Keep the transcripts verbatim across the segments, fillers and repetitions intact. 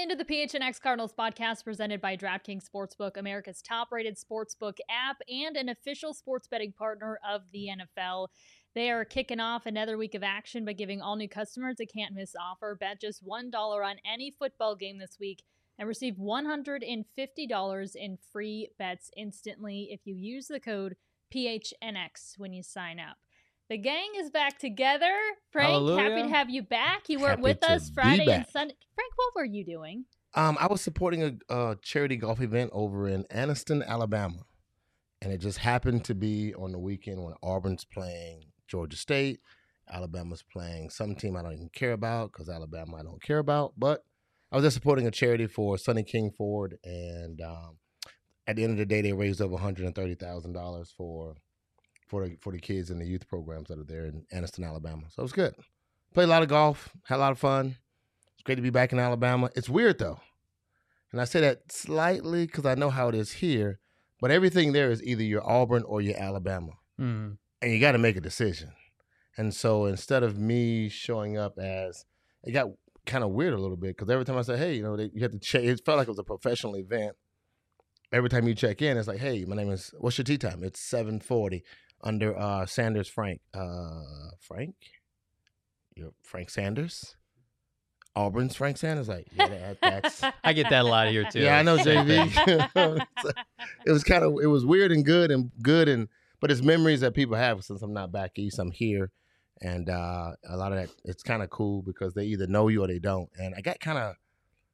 into the P H N X Cardinals podcast presented by DraftKings Sportsbook, America's top-rated sportsbook app and an official sports betting partner of the N F L. They are kicking off another week of action by giving all new customers a can't-miss offer. Bet just one dollar on any football game this week and receive one hundred fifty dollars in free bets instantly if you use the code P H N X when you sign up. The gang is back together. Frank, Hallelujah. happy to have you back. You were Happy with to us be Friday and back. Sunday. Frank, what were you doing? Um, I was supporting a, a charity golf event over in Anniston, Alabama, and it just happened to be on the weekend when Auburn's playing Georgia State, Alabama's playing some team I don't even care about because Alabama I don't care about. But I was just supporting a charity for Sonny King Ford, and um, at the end of the day, they raised over one hundred thirty thousand dollars for for the for the kids in the youth programs that are there in Anniston, Alabama. So it was good. Played a lot of golf, had a lot of fun. It's great to be back in Alabama. It's weird though, and I say that slightly because I know how it is here. But everything there is either you're Auburn or you're Alabama, Mm-hmm. and you got to make a decision. And so instead of me showing up as, it got kind of weird a little bit because every time I said, hey, you know, they, you have to check. It felt like it was a professional event. Every time you check in, it's like, hey, my name is, what's your tea time? It's seven forty. Under uh, Sanders Frank. Uh, Frank? You're Frank Sanders? Auburn's Frank Sanders? Like, yeah, that, that's... I get that a lot here too. Yeah, I know, J V. So, it was kind of, it was weird and good and good, and but it's memories that people have since I'm not back east, I'm here. And uh, a lot of that, it's kind of cool because they either know you or they don't. And I got kind of,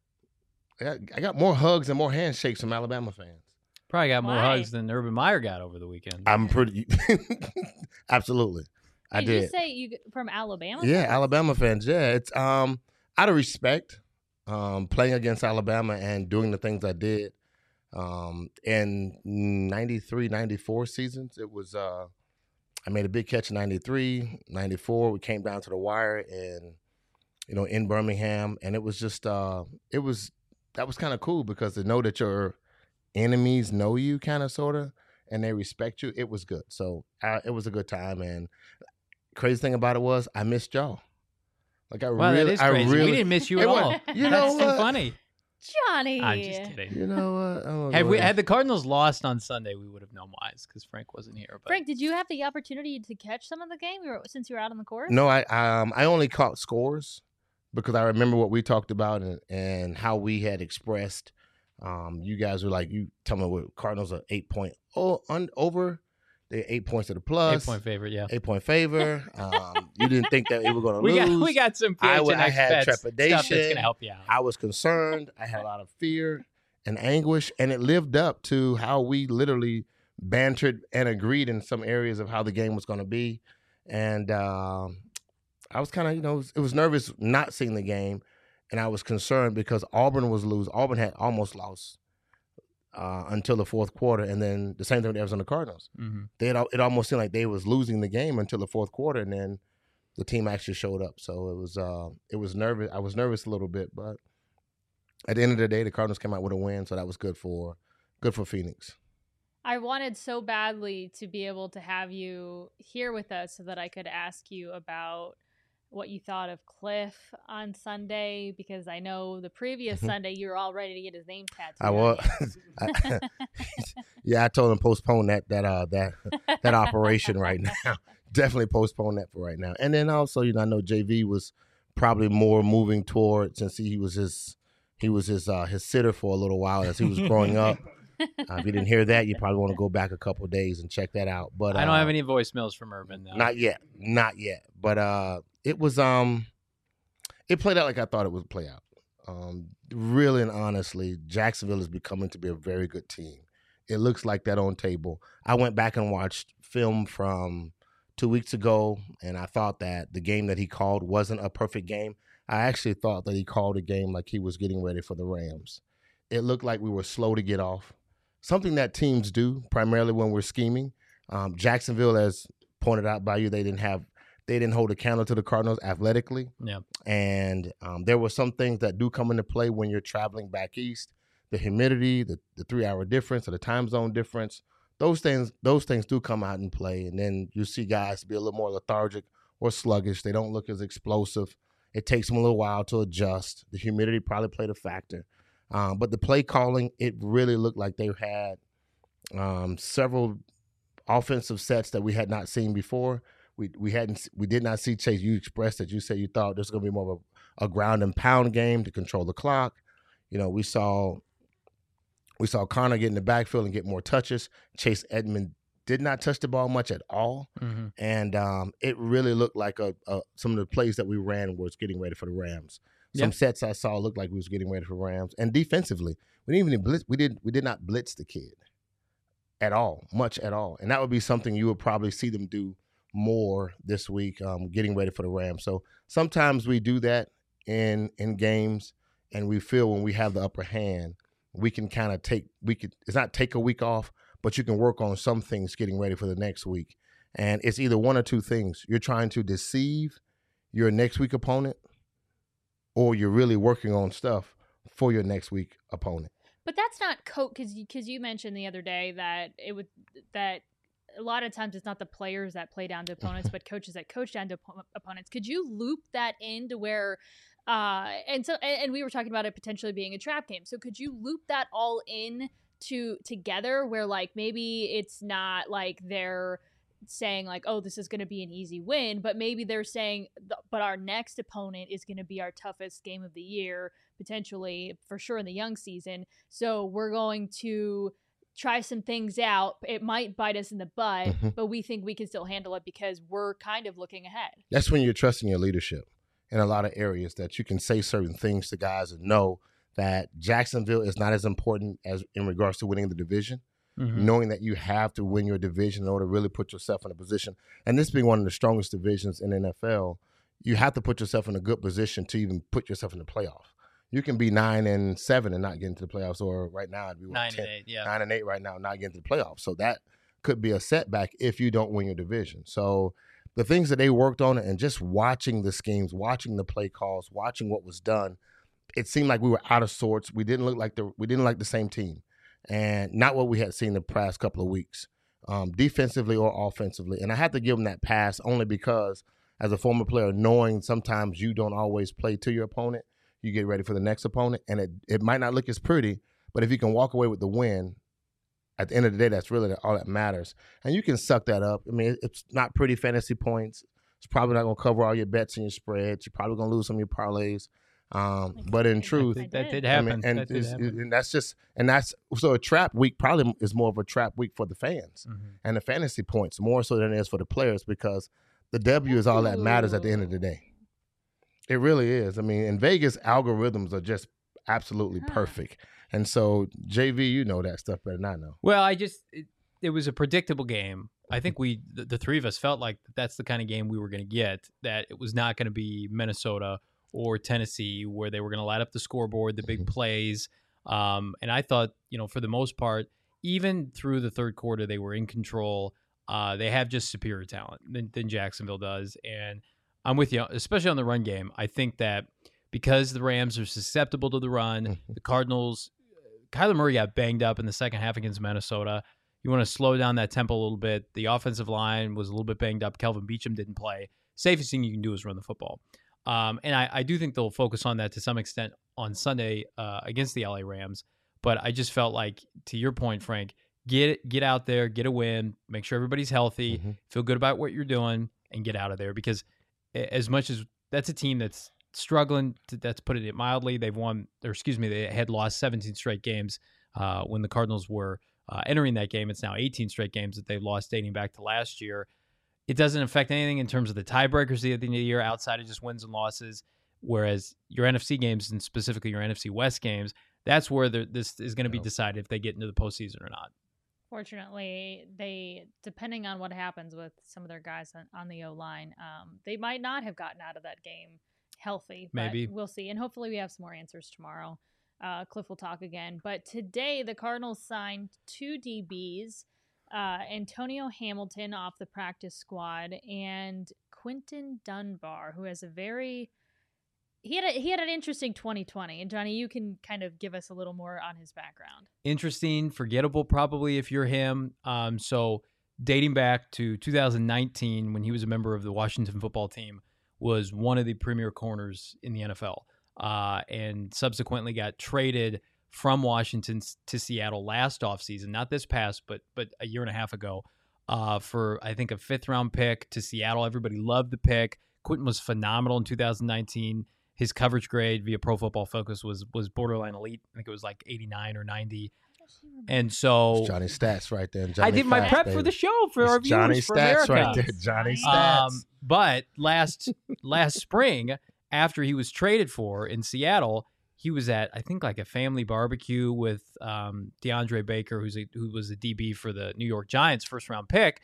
I got, I got more hugs and more handshakes from Alabama fans. Probably got more Why? hugs than Urban Meyer got over the weekend. I'm pretty, absolutely. I did, did. you say you from Alabama? Yeah, Alabama fans. Yeah, it's um out of respect, um, playing against Alabama and doing the things I did. Um, in ninety-three, ninety-four seasons, it was uh, I made a big catch in ninety-three, ninety-four. We came down to the wire in, you know, in Birmingham, and it was just uh, it was that was kind of cool because to know that your enemies know you, kind of sort of, and they respect you. It was good. So uh, it was a good time. And crazy thing about it was I missed y'all. Like I Wow, really, that is I crazy. really, We didn't miss you It at was- all. you know That's too what? funny. Johnny. I'm just kidding. you know what? I'm Had we gonna- had the Cardinals lost on Sunday, we would have known why, because Frank wasn't here. But Frank, did you have the opportunity to catch some of the game you were, since you were out on the course? No, I um I only caught scores because I remember what we talked about and, and how we had expressed. Um, you guys were like, you tell me what Cardinals are eight point oh un, over. They're eight points to the plus. eight point favorite, yeah. Eight point favor. Um, you didn't think that we were going to We lose. got we got some P I H w- N I X had bets, stuff trepidation. that's gonna help you out. I was concerned. I had a lot of fear and anguish, and it lived up to how we literally bantered and agreed in some areas of how the game was going to be. And um, I was kind of, you know, it was, it was nervous not seeing the game, and I was concerned because Auburn was lose. Auburn had almost lost uh, until the fourth quarter, and then the same thing with Arizona Cardinals. Mm-hmm. They had, it almost seemed like they was losing the game until the fourth quarter, and then the team actually showed up. So it was uh, it was nervous. I was nervous a little bit, but at the end of the day, the Cardinals came out with a win, so that was good for good for Phoenix. I wanted so badly to be able to have you here with us so that I could ask you about what you thought of Cliff on Sunday, because I know the previous Sunday you were all ready to get his name tattooed. I on was, I, yeah, I told him postpone that that uh that that operation right now. Definitely postpone that for right now. And then also, you know, I know J V was probably more moving toward, since he was his he was his uh, his sitter for a little while as he was growing up. Uh, if you didn't hear that, you probably want to go back a couple of days and check that out. But I don't uh, have any voicemails from Urban though. Not yet, not yet. But uh, it was um, it played out like I thought it would play out. Um, really and honestly, Jacksonville is becoming to be a very good team. It looks like that on table. I went back and watched film from two weeks ago, and I thought that the game that he called wasn't a perfect game. I actually thought that he called a game like he was getting ready for the Rams. It looked like we were slow to get off. Something that teams do primarily when we're scheming. Um, Jacksonville, as pointed out by you, they didn't have, they didn't hold a candle to the Cardinals athletically. Yeah. And um, there were some things that do come into play when you're traveling back east. The humidity, the, the three-hour difference, or the time zone difference. Those things, those things do come out and play. And then you see guys be a little more lethargic or sluggish. They don't look as explosive. It takes them a little while to adjust. The humidity probably played a factor. Um, but the play calling, it really looked like they had um, several offensive sets that we had not seen before. We we hadn't we did not see Chase. You expressed that you said you thought there's going to be more of a, a ground and pound game to control the clock. You know, we saw we saw Connor get in the backfield and get more touches. Chase Edmond did not touch the ball much at all, mm-hmm. and um, it really looked like a, a some of the plays that we ran was getting ready for the Rams. Some yeah. sets I saw looked like we was getting ready for Rams, and defensively, we didn't even blitz. We did we did not blitz the kid at all, much at all, and that would be something you would probably see them do more this week, um, getting ready for the Rams. So sometimes we do that in in games, and we feel when we have the upper hand, we can kind of take we could it's not take a week off, but you can work on some things getting ready for the next week. And it's either one or two things. You're trying to deceive your next week opponent, or you're really working on stuff for your next week opponent. But that's not coach because because you mentioned the other day that it would that. A lot of times it's not the players that play down to opponents, but coaches that coach down to op- opponents. Could you loop that into where, uh, and so, and we were talking about it potentially being a trap game. So could you loop that all in to together where like, maybe it's not like they're saying like, oh, this is going to be an easy win, but maybe they're saying, but our next opponent is going to be our toughest game of the year, potentially for sure in the young season. So we're going to try some things out. It might bite us in the butt, mm-hmm. but we think we can still handle it because we're kind of looking ahead. That's when you're trusting your leadership in a lot of areas, that you can say certain things to guys and know that Jacksonville is not as important as in regards to winning the division, mm-hmm. knowing that you have to win your division in order to really put yourself in a position. And this being one of the strongest divisions in the N F L, you have to put yourself in a good position to even put yourself in the playoff. You can be nine and seven and not get into the playoffs, or right now it'd be what, nine ten, and eight, yeah, nine and eight right now, not getting to the playoffs. So that could be a setback if you don't win your division. So the things that they worked on, and just watching the schemes, watching the play calls, watching what was done, it seemed like we were out of sorts. We didn't look like the we didn't like the same team, and not what we had seen the past couple of weeks, um, defensively or offensively. And I have to give them that pass only because, as a former player, knowing sometimes you don't always play to your opponent. You get ready for the next opponent, and it, it might not look as pretty, but if you can walk away with the win, at the end of the day, that's really all that matters. And you can suck that up. I mean, it's not pretty fantasy points. It's probably not going to cover all your bets and your spreads. You're probably going to lose some of your parlays. Um, but in truth, that, that did happen. I mean, and, that did happen. and that's just, and that's, so a trap week probably is more of a trap week for the fans mm-hmm. and the fantasy points, more so than it is for the players, because the W is all that matters at the end of the day. It really is. I mean, in Vegas, algorithms are just absolutely huh. perfect. And so, J V, you know that stuff better than I know. Well, I just, it, it was a predictable game. I think we, the, the three of us felt like that's the kind of game we were going to get, that it was not going to be Minnesota or Tennessee where they were going to light up the scoreboard, the big mm-hmm. plays. Um, and I thought, you know, for the most part, even through the third quarter, they were in control. Uh, they have just superior talent than, than Jacksonville does. And I'm with you, especially on the run game. I think that because the Rams are susceptible to the run, the Cardinals, Kyler Murray got banged up in the second half against Minnesota. You want to slow down that tempo a little bit. The offensive line was a little bit banged up. Kelvin Beachum didn't play. Safest thing you can do is run the football. Um, and I, I do think they'll focus on that to some extent on Sunday uh, against the L A Rams. But I just felt like, to your point, Frank, get get out there, get a win, make sure everybody's healthy, mm-hmm. feel good about what you're doing, and get out of there. Because as much as that's a team that's struggling, to, that's putting it mildly. They've won, or excuse me, they had lost seventeen straight games uh, when the Cardinals were uh, entering that game. It's now eighteen straight games that they've lost dating back to last year. It doesn't affect anything in terms of the tiebreakers at the end of the year outside of just wins and losses, whereas your N F C games, and specifically your N F C West games, that's where this is going to be decided if they get into the postseason or not. Fortunately, they, depending on what happens with some of their guys on, on the O-line, um, they might not have gotten out of that game healthy. But maybe. We'll see. And hopefully we have some more answers tomorrow. Uh, Cliff will talk again. But today, the Cardinals signed two D Bs, uh, Antonio Hamilton off the practice squad, and Quinton Dunbar, who has a very... He had a, he had an interesting twenty twenty, and Johnny, you can kind of give us a little more on his background. Interesting, forgettable probably if you're him. Um, so dating back to two thousand nineteen when he was a member of the Washington football team, was one of the premier corners in the N F L, uh, and subsequently got traded from Washington to Seattle last offseason, not this past, but but a year and a half ago, uh, for, I think, a fifth-round pick to Seattle. Everybody loved the pick. Quentin was phenomenal in two thousand nineteen. His coverage grade via Pro Football Focus was was borderline elite. I think it was like eighty-nine or ninety. And so It's Johnny Stats right there. Johnny I did my Facts, prep baby. for the show for It's our Johnny viewers for Stats America. right there. Johnny Stats. Um, but last last spring, after he was traded for in Seattle, he was at, I think, like a family barbecue with um, DeAndre Baker, who's a, who was a D B for the New York Giants, first round pick,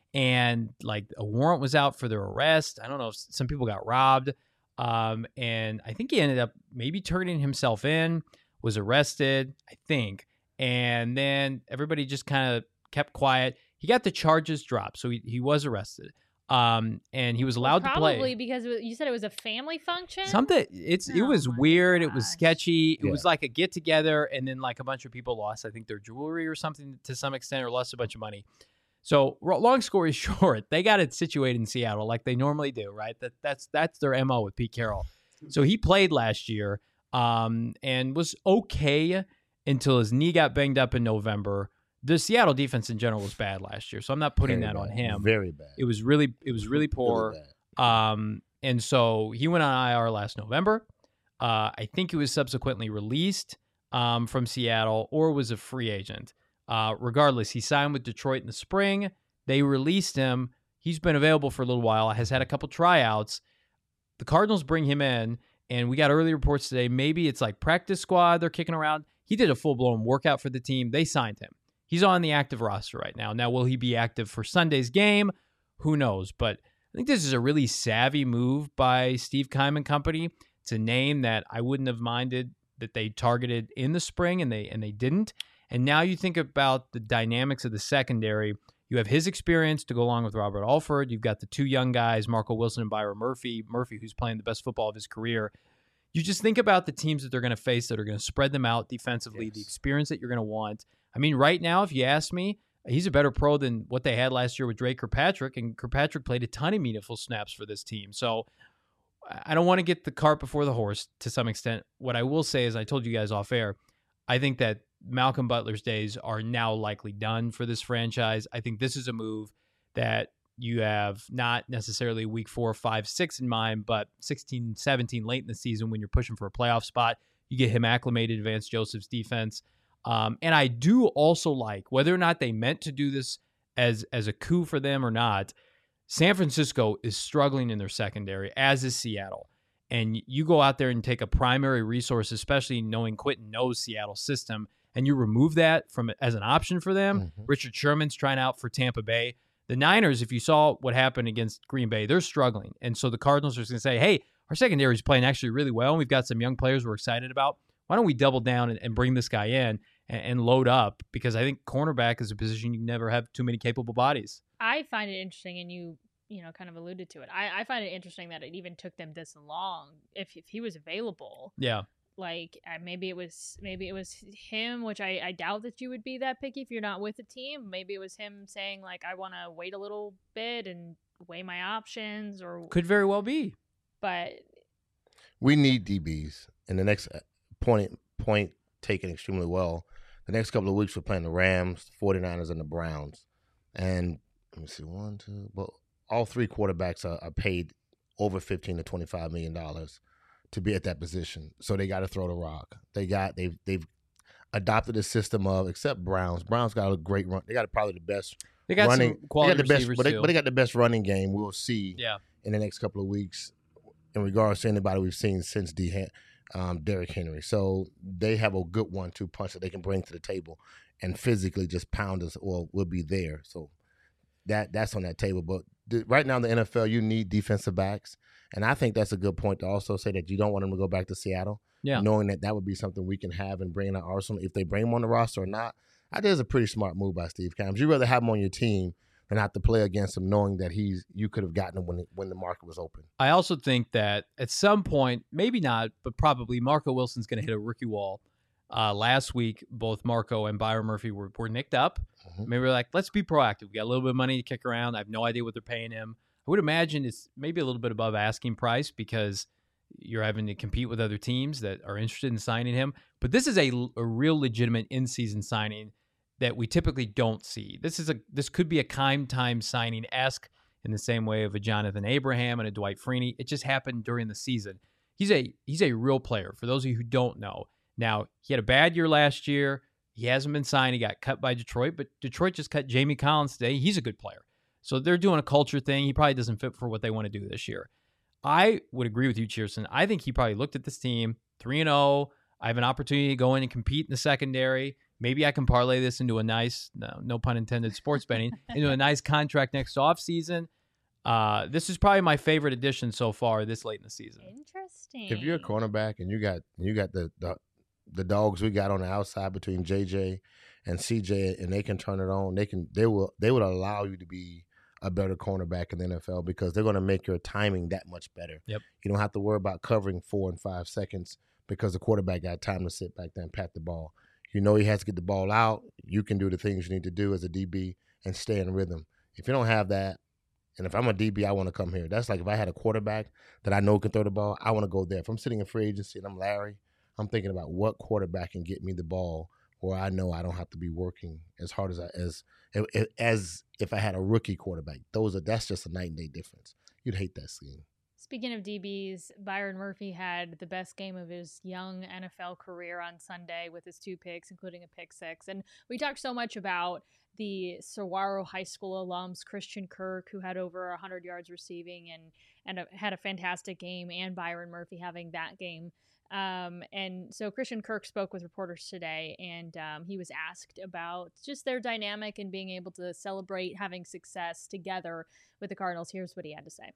and like a warrant was out for their arrest. I don't know if some people got robbed, um, and I think he ended up maybe turning himself in, was arrested, I think, and then everybody just kind of kept quiet. He got the charges dropped, so he, he was arrested. Um, and he was allowed well, to play. Probably because it was, you said it was a family function. Something it's it Oh was my weird. It was gosh. sketchy. It Yeah. was like a get together, and then like a bunch of people lost, I think, their jewelry or something to some extent, or lost a bunch of money. So, ro- long story short, they got it situated in Seattle like they normally do, right? That that's that's their M O with Pete Carroll. So he played last year, um, and was okay until his knee got banged up in November. The Seattle defense in general was bad last year, so I'm not putting Very that on bad. him. Very bad. It was really it was really poor. Really bad. Um, and so he went on I R last November. Uh, I think he was subsequently released um, from Seattle or was a free agent. Uh, regardless, he signed with Detroit in the spring. They released him. He's been available for a little while, has had a couple tryouts. The Cardinals bring him in, and we got early reports today. Maybe it's like practice squad they're kicking around. He did a full-blown workout for the team. They signed him. He's on the active roster right now. Now, will he be active for Sunday's game? Who knows? But I think this is a really savvy move by Steve Keim and company. It's a name that I wouldn't have minded that they targeted in the spring, and they and they didn't. And now you think about the dynamics of the secondary. You have his experience to go along with Robert Alford. You've got the two young guys, Marco Wilson and Byron Murphy. Murphy, who's playing the best football of his career. You just think about the teams that they're going to face that are going to spread them out defensively, Yes. the experience that you're going to want. I mean, right now, if you ask me, he's a better pro than what they had last year with Drake Kirkpatrick, and Kirkpatrick played a ton of meaningful snaps for this team. So I don't want to get the cart before the horse to some extent. What I will say is, I told you guys off air, I think that Malcolm Butler's days are now likely done for this franchise. I think this is a move that you have not necessarily week four, five, six in mind, but sixteen, seventeen late in the season when you're pushing for a playoff spot. You get him acclimated to Vance Joseph's defense. Um, and I do also like, whether or not they meant to do this as as a coup for them or not, San Francisco is struggling in their secondary, as is Seattle. And you go out there and take a primary resource, especially knowing Quentin knows Seattle's system, and you remove that from as an option for them. Mhm. Richard Sherman's trying out for Tampa Bay. The Niners, if you saw what happened against Green Bay, they're struggling. And so the Cardinals are going to say, hey, our secondary is playing actually really well, and we've got some young players we're excited about. Why don't we double down and, and bring this guy in and, and load up? Because I think cornerback is a position you never have too many capable bodies. I find it interesting, and you, you know, kind of alluded to it. I, I find it interesting that it even took them this long. If if he was available, Yeah. like uh, maybe it was maybe it was him, which I, I doubt that you would be that picky if you're not with the team. Maybe it was him saying like, I want to wait a little bit and weigh my options, or Could very well be. but We need D Bs. And the next point point taken extremely well. The next couple of weeks we're playing the Rams, the 49ers, and the Browns. And let me see, one, two, well, all three quarterbacks are, are paid over fifteen to twenty-five million dollars to be at that position. So they got to throw the rock. They got they've they've adopted a system of, except Browns. Browns got a great run. They got probably the best They got running. some quality they got the best, receivers but they, too. but they got the best running game. We'll see yeah. in the next couple of weeks in regards to anybody we've seen since D. Um, Derrick Henry. So they have a good one two punch that they can bring to the table and physically just pound us, or will be there. So that that's on that table. But the, right now in the N F L, you need defensive backs. And I think that's a good point to also say that you don't want them to go back to Seattle, Yeah. knowing that that would be something we can have and bring in our arsenal. If they bring them on the roster or not, I think it's a pretty smart move by Steve Keim. You'd rather have him on your team than have to play against him, knowing that he's you could have gotten him when, when the market was open. I also think that at some point, maybe not, but probably Marco Wilson's going to hit a rookie wall. Uh, last week, both Marco and Byron Murphy were, were nicked up. Mhm. Maybe we're like, let's be proactive. We got a little bit of money to kick around. I have no idea what they're paying him. would imagine it's maybe a little bit above asking price because you're having to compete with other teams that are interested in signing him. But this is a, a real legitimate in-season signing that we typically don't see. This is a this could be a Kime time signing-esque in the same way of a Jonathan Abraham and a Dwight Freeney. It just happened during the season. He's a he's a real player. For those of you who don't know, now he had a bad year last year. He hasn't been signed. He got cut by Detroit, but Detroit just cut Jamie Collins today. He's a good player. So they're doing a culture thing. He probably doesn't fit for what they want to do this year. I would agree with you, Cheerson. I think he probably looked at this team, three and oh. I have an opportunity to go in and compete in the secondary. Maybe I can parlay this into a nice, no, no pun intended, sports betting, into a nice contract next offseason. Uh, this is probably my favorite addition so far this late in the season. Interesting. If you're a cornerback and you got you got the, the the dogs we got on the outside between J J and C J, and they can turn it on, they can they will they would allow you to be a better cornerback in the N F L because they're going to make your timing that much better. Yep. You don't have to worry about covering four and five seconds because the quarterback got time to sit back there and pat the ball. You know he has to get the ball out. You can do the things you need to do as a D B and stay in rhythm. If you don't have that, and if I'm a D B, I want to come here. That's like if I had a quarterback that I know can throw the ball, I want to go there. If I'm sitting in free agency and I'm Larry, I'm thinking about what quarterback can get me the ball where I know I don't have to be working as hard as I as as if I had a rookie quarterback. Those are that's just a night and day difference. You'd hate that scene. Speaking of D Bs, Byron Murphy had the best game of his young N F L career on Sunday with his two picks, including a pick six. And we talked so much about the Saguaro High School alums, Christian Kirk, who had over one hundred yards receiving and, and a, had a fantastic game, and Byron Murphy having that game. Um, and so Christian Kirk spoke with reporters today, and um, he was asked about just their dynamic and being able to celebrate having success together with the Cardinals. Here's what he had to say.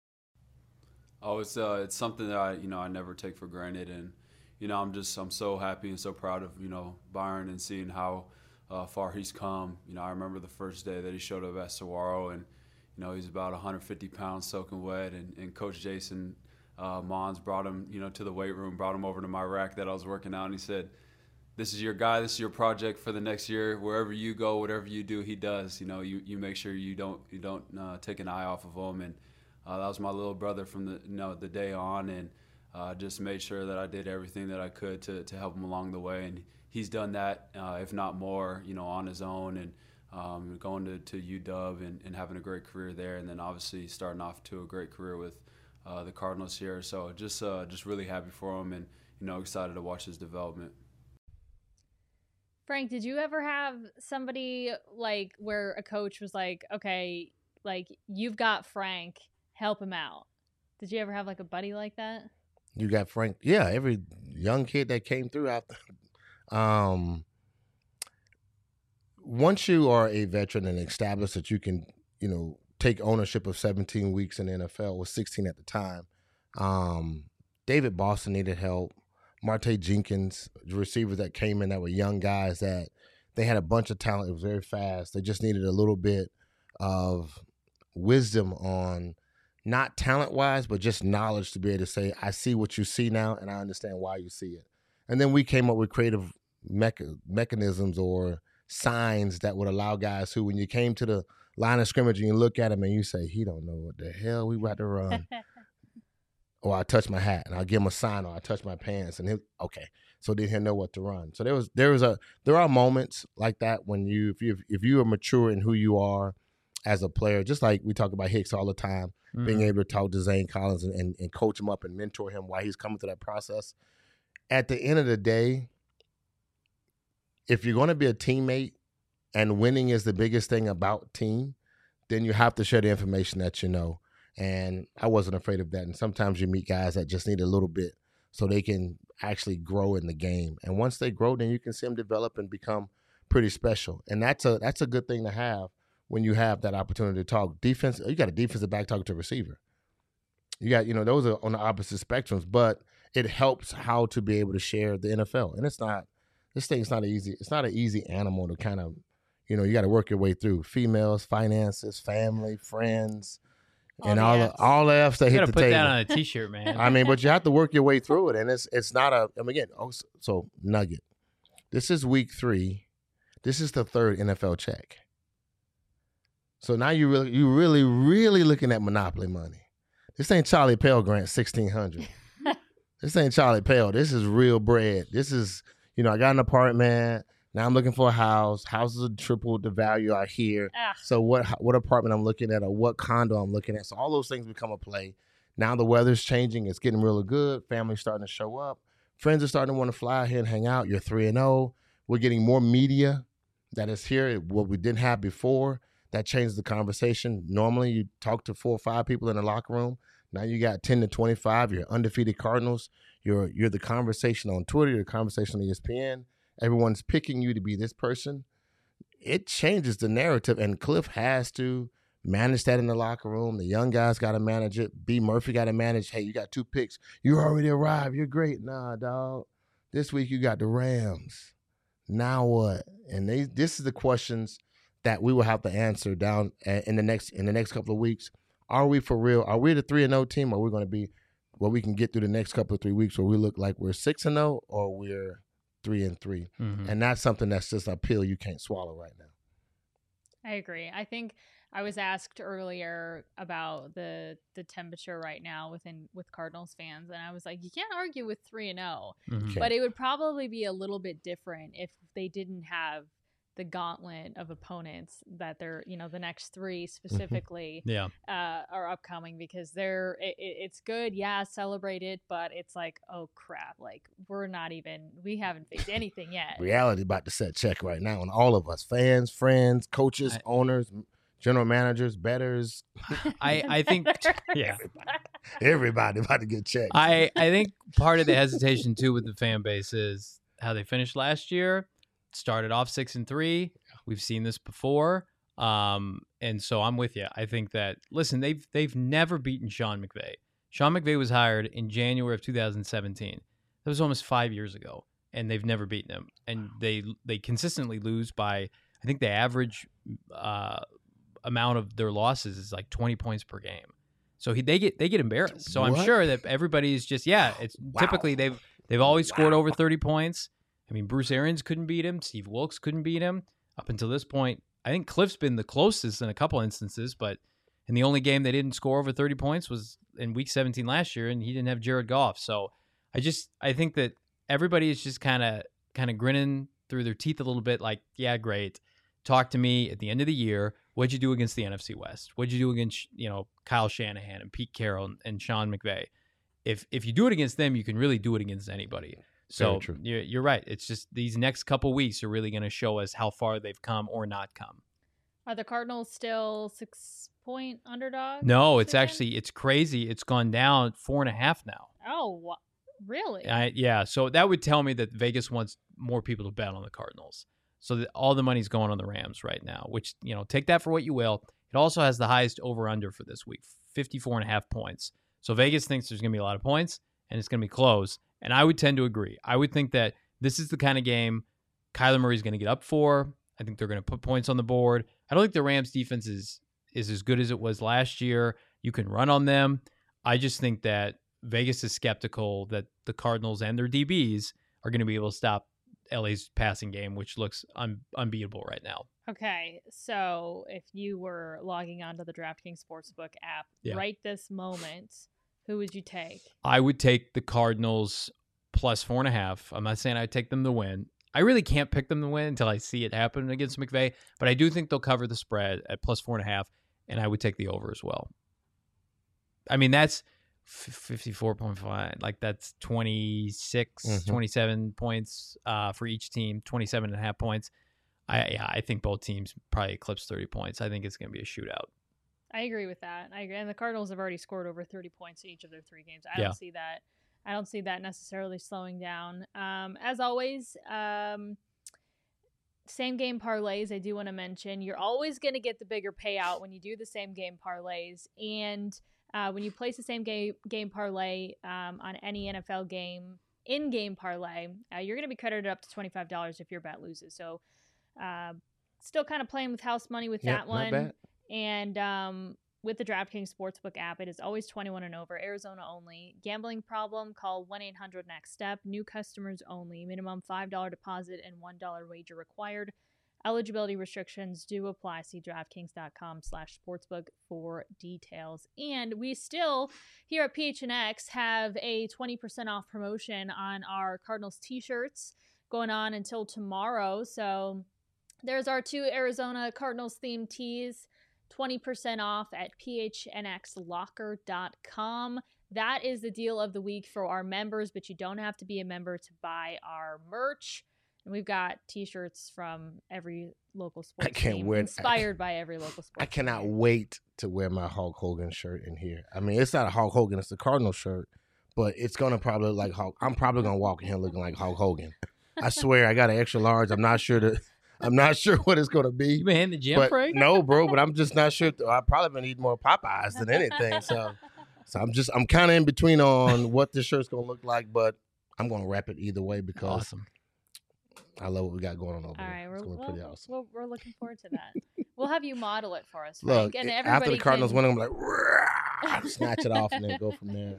Oh, it's uh, it's something that I, you know, I never take for granted, and you know, I'm just I'm so happy and so proud of you know Byron and seeing how uh, far he's come. You know, I remember the first day that he showed up at Saguaro, and you know, he's about one hundred fifty pounds soaking wet, and, and Coach Jason uh, Mons brought him, you know, to the weight room, brought him over to my rack that I was working out, and he said, "This is your guy. This is your project for the next year. Wherever you go, whatever you do, he does. You know, you, you make sure you don't you don't uh, take an eye off of him." And Uh, that was my little brother from the you know the day on, and uh, just made sure that I did everything that I could to, to help him along the way. And he's done that, uh, if not more, you know, on his own, and um, going to, to U W and, and having a great career there, and then obviously starting off to a great career with uh, the Cardinals here. So just uh, just really happy for him, and you know excited to watch his development. Frank, did you ever have somebody like where a coach was like, okay, like you've got Frank, help him out? Did you ever have like a buddy like that? You got Frank. Yeah, every young kid that came through after. Um, once you are a veteran and established that you can, you know, take ownership of seventeen weeks in the N F L, was sixteen at the time. Um, David Boston needed help. Marte Jenkins, the receivers that came in that were young guys that they had a bunch of talent. It was very fast. They just needed a little bit of wisdom on not talent-wise, but just knowledge to be able to say, I see what you see now, and I understand why you see it. And then we came up with creative mecha- mechanisms or signs that would allow guys who, when you came to the line of scrimmage and you look at him and you say, he don't know what the hell we about to run. Or I touch my hat, and I'll give him a sign, or I touch my pants, and he'll, okay. So then he'll know what to run. So there was, there was a, there are moments like that when you, if you, if you are mature in who you are as a player, just like we talk about Hicks all the time, mm-hmm. being able to talk to Zane Collins and, and, and coach him up and mentor him while he's coming through that process. At the end of the day, if you're going to be a teammate and winning is the biggest thing about team, then you have to share the information that you know. And I wasn't afraid of that. And sometimes you meet guys that just need a little bit so they can actually grow in the game. And once they grow, then you can see them develop and become pretty special. And that's a that's a good thing to have when you have that opportunity to talk. Defense, you got a defensive back talking to a receiver. You got, you know, those are on the opposite spectrums, but it helps how to be able to share the N F L. And it's not, this thing's not easy. It's not an easy animal to kind of, you know, you got to work your way through. Females, finances, family, friends, all and all the, all the F's that you hit the put table. Put that on a T-shirt, man. I mean, but you have to work your way through it. And it's it's not a, I mean, again, oh, so, so nugget. This is week three. This is the third N F L check. So now you really, you really, really looking at monopoly money. This ain't Charlie Pell Grant sixteen hundred. This ain't Charlie Pell. This is real bread. This is, you know, I got an apartment. Now I'm looking for a house. Houses are tripled the value out here. Ah. So what what apartment I'm looking at or what condo I'm looking at. So all those things become a play. Now the weather's changing. It's getting really good. Family's starting to show up. Friends are starting to want to fly here and hang out. You're three and oh. We're getting more media that is here, what we didn't have before. That changes the conversation. Normally you talk to four or five people in the locker room. Now you got ten to twenty-five. You're undefeated Cardinals. You're you're the conversation on Twitter. You're the conversation on E S P N. Everyone's picking you to be this person. It changes the narrative, and Cliff has to manage that in the locker room. The young guys got to manage it. B. Murphy got to manage, hey, you got two picks. You already arrived. You're great. Nah, dog. This week you got the Rams. Now what? And they, this is the questions that we will have to answer down in the next in the next couple of weeks. Are we for real? Are we the three and oh team, or are we going to be where we can get through the next couple of three weeks where we look like we're six and oh or we're three and three? Mm-hmm. And that's something that's just a pill you can't swallow right now. I agree. I think I was asked earlier about the the temperature right now within with Cardinals fans, and I was like, you can't argue with three and zero, Mm-hmm. but it would probably be a little bit different if they didn't have the gauntlet of opponents that they're, you know, the next three specifically Yeah. uh, are upcoming, because they're it, it's good, yeah, celebrate it, but it's like, oh crap, like we're not even we haven't faced anything yet. Reality about to set check right now on all of us, fans, friends, coaches, I- owners, general managers, bettors. I, I think, yeah. Everybody about to get checked. I, I think part of the hesitation too with the fan base is how they finished last year. Started off six and three. We've seen this before, um, and so I'm with you. I think that listen, they've they've never beaten Sean McVay. Sean McVay was hired in January of two thousand seventeen. That was almost five years ago, and they've never beaten him. And they they consistently lose by, I think the average uh, amount of their losses is like twenty points per game. So he, they get they get embarrassed. So I'm What? sure that everybody's just yeah. It's Wow. typically they've they've always scored Wow. over thirty points. I mean, Bruce Arians couldn't beat him. Steve Wilkes couldn't beat him up until this point. I think Cliff's been the closest in a couple instances, but in the only game they didn't score over thirty points was in week seventeen last year, and he didn't have Jared Goff. So I just I think that everybody is just kind of kind of grinning through their teeth a little bit like, yeah, great. Talk to me at the end of the year. What'd you do against the N F C West? What'd you do against, you know, Kyle Shanahan and Pete Carroll and, and Sean McVay? If if you do it against them, you can really do it against anybody. So Very true. you're, you're right. It's just these next couple weeks are really going to show us how far they've come or not come. Are the Cardinals still six point underdogs? No, it's again? actually it's crazy. It's gone down four and a half now. Oh, wha- really? I, yeah, so that would tell me that Vegas wants more people to bet on the Cardinals. So that all the money's going on the Rams right now, which, you know, take that for what you will. It also has the highest over-under for this week, fifty-four and a half points. So Vegas thinks there's going to be a lot of points, and it's going to be close. And I would tend to agree. I would think that this is the kind of game Kyler Murray's going to get up for. I think they're going to put points on the board. I don't think the Rams defense is is as good as it was last year. You can run on them. I just think that Vegas is skeptical that the Cardinals and their D Bs are going to be able to stop L A's passing game, which looks un- unbeatable right now. Okay, so if you were logging onto the DraftKings Sportsbook app Yeah. right this moment, who would you take? I would take the Cardinals plus four and a half. I'm not saying I'd take them to win. I really can't pick them to win until I see it happen against McVay, but I do think they'll cover the spread at plus four and a half, and I would take the over as well. I mean, that's fifty-four point five. Like, that's twenty-six, Mhm. twenty-seven points uh, for each team, twenty-seven and a half points. I, yeah, I think both teams probably eclipse thirty points. I think it's going to be a shootout. I agree with that. I agree. And the Cardinals have already scored over thirty points in each of their three games. I Yeah. don't see that. I don't see that necessarily slowing down. Um, as always, um, same game parlays, I do want to mention, you're always going to get the bigger payout when you do the same game parlays. And uh, when you place the same game, game parlay um, on any N F L game, in-game parlay, uh, you're going to be credited up to twenty-five dollars if your bet loses. So uh, still kind of playing with house money with Yep, that not one. bad. And um, with the DraftKings Sportsbook app, it is always twenty-one and over, Arizona only. Gambling problem? Call one eight hundred next step. New customers only. Minimum five dollars deposit and one dollar wager required. Eligibility restrictions do apply. See DraftKings.com slash sportsbook for details. And we still, here at P H N X, have a twenty percent off promotion on our Cardinals t-shirts going on until tomorrow. So there's our two Arizona Cardinals themed tees, twenty percent off at P H N X locker dot com. That is the deal of the week for our members, but you don't have to be a member to buy our merch. And we've got t-shirts from every local sports I can't team, wear it. inspired by every local sports I cannot team. wait to wear my Hulk Hogan shirt in here. I mean, it's not a Hulk Hogan, it's the Cardinal shirt, but it's gonna probably look like Hulk. I'm probably gonna walk in here looking like Hulk Hogan. I swear, I got an extra large. I'm not sure that. I'm not sure what it's gonna be. You been hitting the gym, But Frank? no, bro. But I'm just not sure. I've probably been eating more Popeyes than anything. So, so I'm just I'm kind of in between on what this shirt's gonna look like, but I'm gonna wrap it either way because Awesome. I love what we got going on over All here. right, we're, It's gonna be we'll, pretty awesome. we'll, we're looking forward to that. We'll have you model it for us, Look, Frank. And it- everybody after the Cardinals can... win, I'm like, "Rah!" snatch it off and then go from there.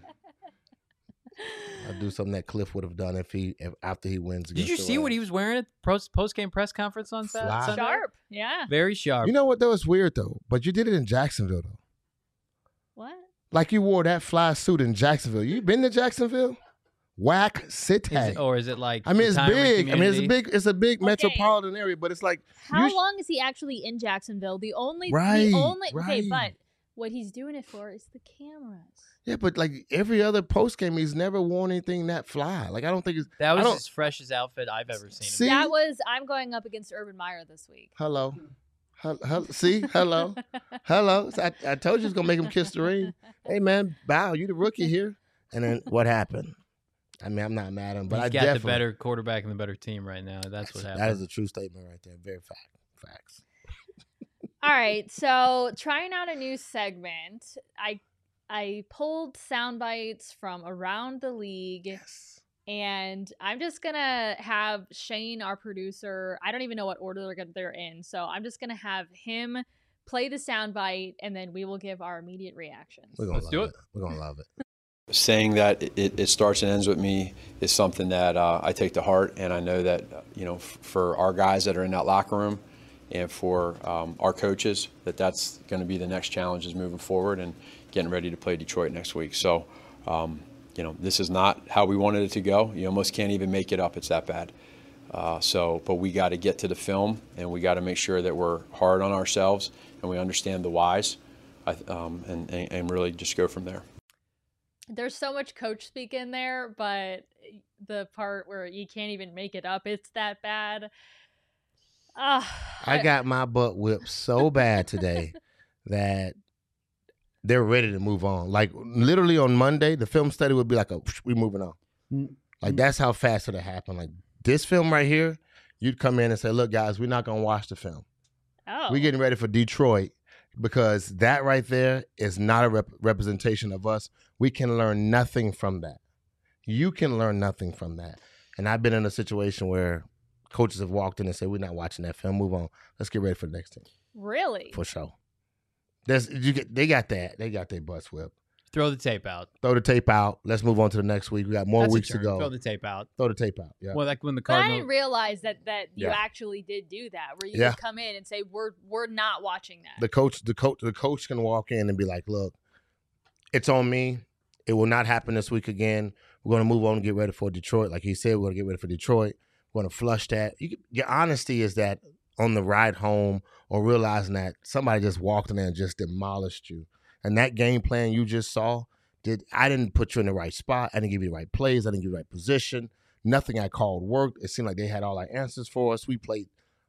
I'll do something that Cliff would have done if he if, after he wins. Did you against the see what he Rams. was wearing at the post game press conference on Sat- Fly. Sunday? Sharp, yeah. Very sharp. You know what though? It's weird though, but you did it in Jacksonville though. What? Like you wore that fly suit in Jacksonville. You been to Jacksonville? Whack City. Is it- or is it like? I mean, it's retirement big. I mean, it's a community? big. It's a big Okay. metropolitan area, but it's like How you sh- long is he actually in Jacksonville? The only, Right, the only, okay, right. but what he's doing it for is the cameras. yeah, but like every other post game, he's never worn anything that fly. Like I don't think it's. That I was don't- his freshest outfit I've ever seen. See? him. That was, I'm going up against Urban Meyer this week. Hello, Hel- hel- see, hello, hello. So I, I told you it's gonna make him kiss the ring. Hey man, bow. You the rookie here. And then what happened? I mean, I'm not mad at him, but He's I got definitely the better quarterback and the better team right now. That's what happened. That is a true statement right there. Very fact. Facts. All right, so trying out a new segment. I I pulled sound bites from around the league, Yes. and I'm just gonna have Shane, our producer. I don't even know what order they're gonna, they're in, so I'm just gonna have him play the sound bite, and then we will give our immediate reactions. We're gonna Let's love do it. it. We're gonna love it. Saying that it, it starts and ends with me is something that uh, I take to heart, and I know that uh, you know f- for our guys that are in that locker room, and for um, our coaches, that that's going to be the next challenge is moving forward and getting ready to play Detroit next week. So, um, you know, this is not how we wanted it to go. You almost can't even make it up. It's that bad. Uh, so, but we got to get to the film, and we got to make sure that we're hard on ourselves and we understand the whys, I, um, and, and and really just go from there. There's so much coach speak in there, but the part where you can't even make it up, it's that bad. Uh, I got my butt whipped so bad today that they're ready to move on. Like literally on Monday, the film study would be like, a, "We're moving on." Mm. Like that's how fast it happened. Like this film right here, you'd come in and say, "Look, guys, we're not gonna watch the film. oh. We're getting ready for Detroit because that right there is not a rep- representation of us. We can learn nothing from that. You can learn nothing from that." And I've been in a situation where coaches have walked in and said, "We're not watching that film. Move on. Let's get ready for the next team." Really? For sure. There's you get they got that. They got their butts whipped. Throw the tape out. Throw the tape out. Let's move on to the next week. We got more That's a weeks to turn. go. Throw the tape out. Throw the tape out. Yeah. Well, like when the But I Cardinals. didn't realize that that you Yeah. actually did do that, where you Yeah. could come in and say, "We're we're not watching that." The coach, the coach, the coach can walk in and be like, "Look, it's on me. It will not happen this week again. We're going to move on and get ready for Detroit." Like he said, we're going to get ready for Detroit. We're going to flush that. You, your honesty is that on the ride home or realizing that somebody just walked in there and just demolished you. And that game plan you just saw, did I didn't put you in the right spot. I didn't give you the right plays. I didn't give you the right position. Nothing I called worked. It seemed like they had all our answers for us. We played.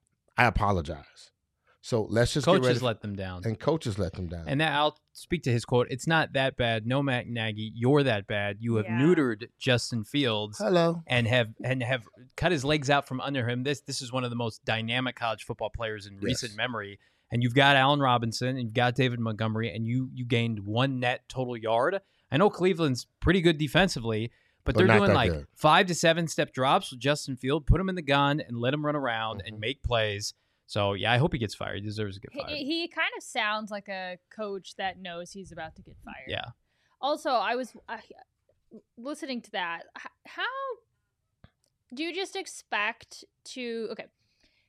I apologize. So let's just get ready. Coaches For, let them down. and coaches let them down. And that I'll speak to his quote. It's not that bad. No, Matt Nagy, you're that bad. You have Yeah. neutered Justin Fields Hello. and have and have cut his legs out from under him. This this is one of the most dynamic college football players in Yes. recent memory. And you've got Allen Robinson and you've got David Montgomery, and you you gained one net total yard. I know Cleveland's pretty good defensively, but, But they're not doing that like good. five to seven step drops with Justin Field. Put him in the gun and let him run around Mhm. and make plays. So yeah, I hope he gets fired. He deserves to get fired. He, he kind of sounds like a coach that knows he's about to get fired. Yeah. Also, I was uh, listening to that. H- How do you just expect to? Okay,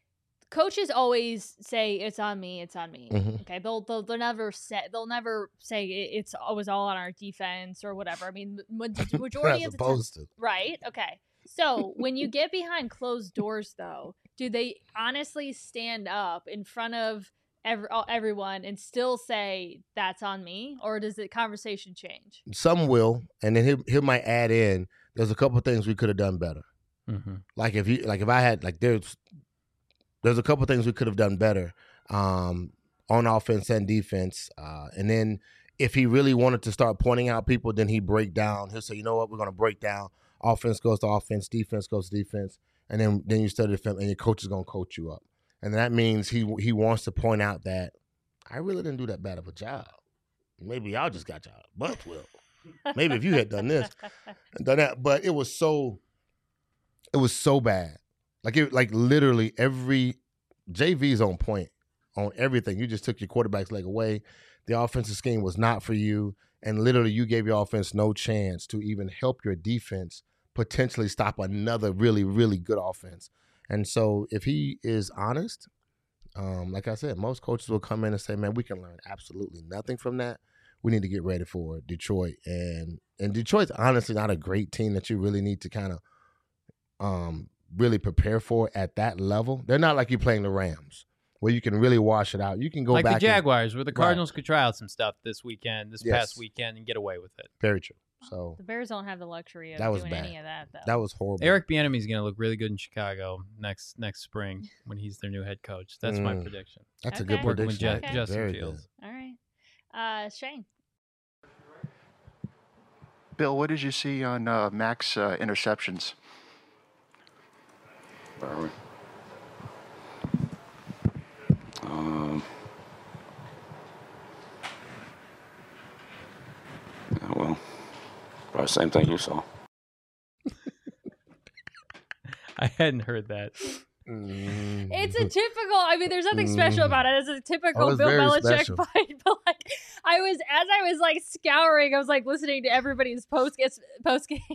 coaches always say it's on me, it's on me. Mhm. Okay, they'll they'll, they'll never say they'll never say it's it was all on our defense or whatever. I mean, ma- majority As of the time, opposed to. right? Okay, so when you get behind closed doors, though, do they honestly stand up in front of every, everyone and still say that's on me, or does the conversation change? Some will, and then he he might add in. There's a couple things we could have done better. Mm-hmm. Like if you like if I had like there's there's a couple things we could have done better um, on offense and defense, uh, and then if he really wanted to start pointing out people, then he break down. He'll say, you know what, we're gonna break down. Offense goes to offense, defense goes to defense, and then then you study the film, and your coach is gonna coach you up, and that means he he wants to point out that I really didn't do that bad of a job. Maybe y'all just got y'all butts whipped. Maybe if you had done this and done that, but it was so. It was so bad. Like it, like literally every J V's on point on everything. You just took your quarterback's leg away. The offensive scheme was not for you, and literally you gave your offense no chance to even help your defense potentially stop another really, really good offense. And so, if he is honest, um, like I said, most coaches will come in and say, "Man, we can learn absolutely nothing from that. We need to get ready for Detroit." And and Detroit's honestly not a great team that you really need to kind of. Um, really prepare for at that level. They're not like you playing the Rams, where you can really wash it out. You can go like back. Like the Jaguars, and, where the Cardinals right. could try out some stuff this weekend, this yes. past weekend, and get away with it. Very true. So the Bears don't have the luxury of that was doing bad. any of that, though. That was horrible. Eric Bieniemy is going to look really good in Chicago next next spring when he's their new head coach. That's mm. my prediction. That's okay. a good prediction. With Je- okay. Justin Very Fields. Good. All right. Uh, Shane. Bill, what did you see on uh, Mac's uh, interceptions? Where are we? Um, yeah, well, probably the same thing you saw. I hadn't heard that. It's a typical, I mean, there's nothing special about it. It's a typical Oh, Bill Belichick special. fight. But like, I was, as I was like scouring, I was like listening to everybody's post post game.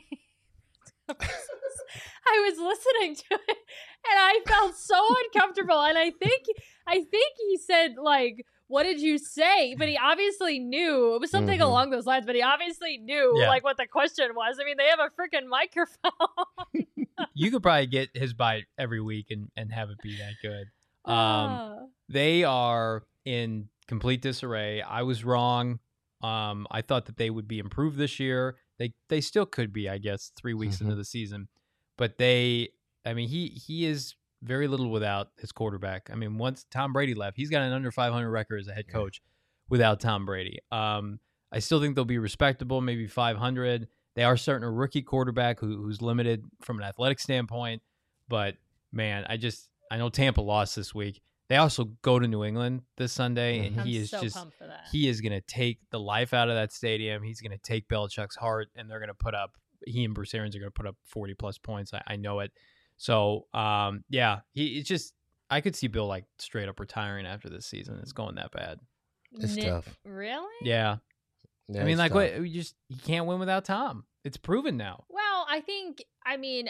I was listening to it and I felt so uncomfortable. And I think, I think he said like, what did you say? But he obviously knew it was something mm-hmm. along those lines, but he obviously knew yeah. like what the question was. I mean, they have a freaking microphone. You could probably get his bite every week and, and have it be that good. Um, uh. They are in complete disarray. I was wrong. Um, I thought that they would be improved this year. They they still could be, I guess, three weeks mm-hmm. into the season. But they, I mean, he he is very little without his quarterback. I mean, once Tom Brady left, he's got an under five hundred record as a head coach without Tom Brady. Um, I still think they'll be respectable, maybe five hundred. They are starting a rookie quarterback who, who's limited from an athletic standpoint. But, man, I just – I know Tampa lost this week. They also go to New England this Sunday, and I'm he is so just pumped for that. – he is going to take the life out of that stadium. He's going to take Belichick's heart, and they're going to put up – he and Bruce Arians are going to put up forty-plus points. I, I know it. So, um, yeah, he it's just – I could see Bill, like, straight up retiring after this season. It's going that bad. It's N- tough. Really? Yeah. Yeah, I mean, it's like, tough. what? You just – he can't win without Tom. It's proven now. Well, I think, I mean,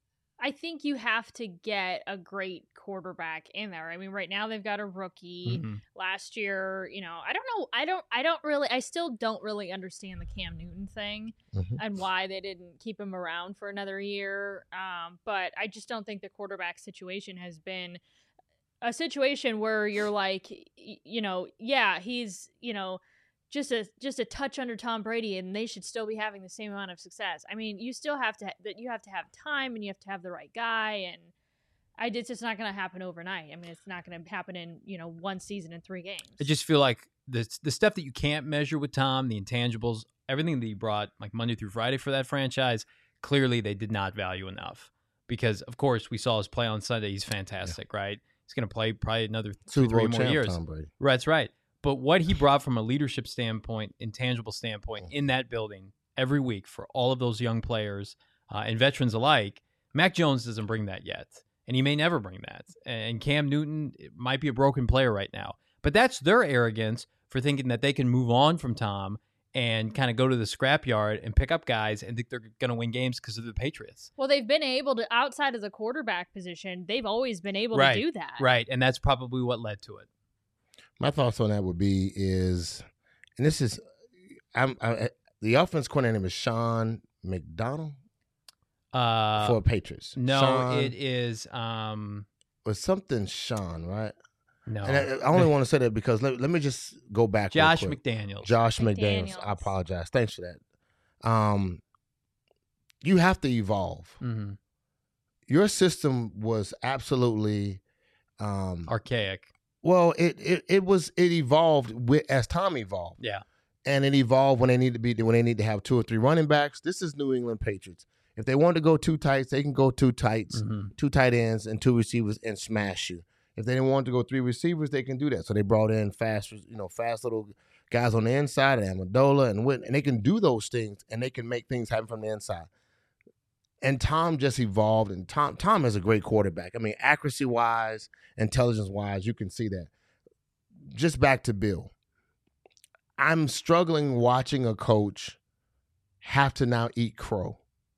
I think you have to get a great quarterback in there. I mean, right now they've got a rookie. Mm-hmm. Last year, you know, I don't know. I don't, I don't really, I still don't really understand the Cam Newton thing Mhm. and why they didn't keep him around for another year. Um, but I just don't think the quarterback situation has been a situation where you're like, y- you know, yeah, he's, you know, just a just a touch under Tom Brady, and they should still be having the same amount of success. I mean, you still have to that you have to have time, and you have to have the right guy, and I it's just not going to happen overnight. I mean, it's not going to happen in you know one season and three games. I just feel like the the stuff that you can't measure with Tom, the intangibles, everything that he brought like Monday through Friday for that franchise, clearly they did not value enough. Because of course we saw his play on Sunday. He's fantastic, yeah. right? He's going to play probably another two, three more champ, years. Tom Brady. Right, that's right. But what he brought from a leadership standpoint, intangible standpoint, in that building every week for all of those young players uh, and veterans alike, Mac Jones doesn't bring that yet. And he may never bring that. And Cam Newton might be a broken player right now. But that's their arrogance for thinking that they can move on from Tom and kind of go to the scrapyard and pick up guys and think they're going to win games because of the Patriots. Well, they've been able to, outside of the quarterback position, they've always been able right. to do that. Right, and that's probably what led to it. My thoughts on that would be is, and this is, I'm I, the offense coordinator is Sean McDonald Uh, for Patriots. no, Sean, it is um, was something Sean, right? no And I, I only want to say that because let, let me just go back. real Josh quick. McDaniels. Josh McDaniels. McDaniels. I apologize. Thanks for that. Um, you have to evolve. hmm Your system was absolutely um, Archaic. well. It, it it was it evolved with as time evolved. Yeah. And it evolved when they need to be when they need to have two or three running backs. This is New England Patriots. If they want to go two tights, they can go two tights, hmm two tight ends, and two receivers and smash you. If they didn't want to go three receivers, they can do that. So they brought in fast, you know, fast little guys on the inside, Amendola and Whit, and they can do those things, and they can make things happen from the inside. And Tom just evolved, and Tom Tom is a great quarterback. I mean, accuracy wise, intelligence wise, you can see that. Just back to Bill. I'm struggling watching a coach have to now eat crow.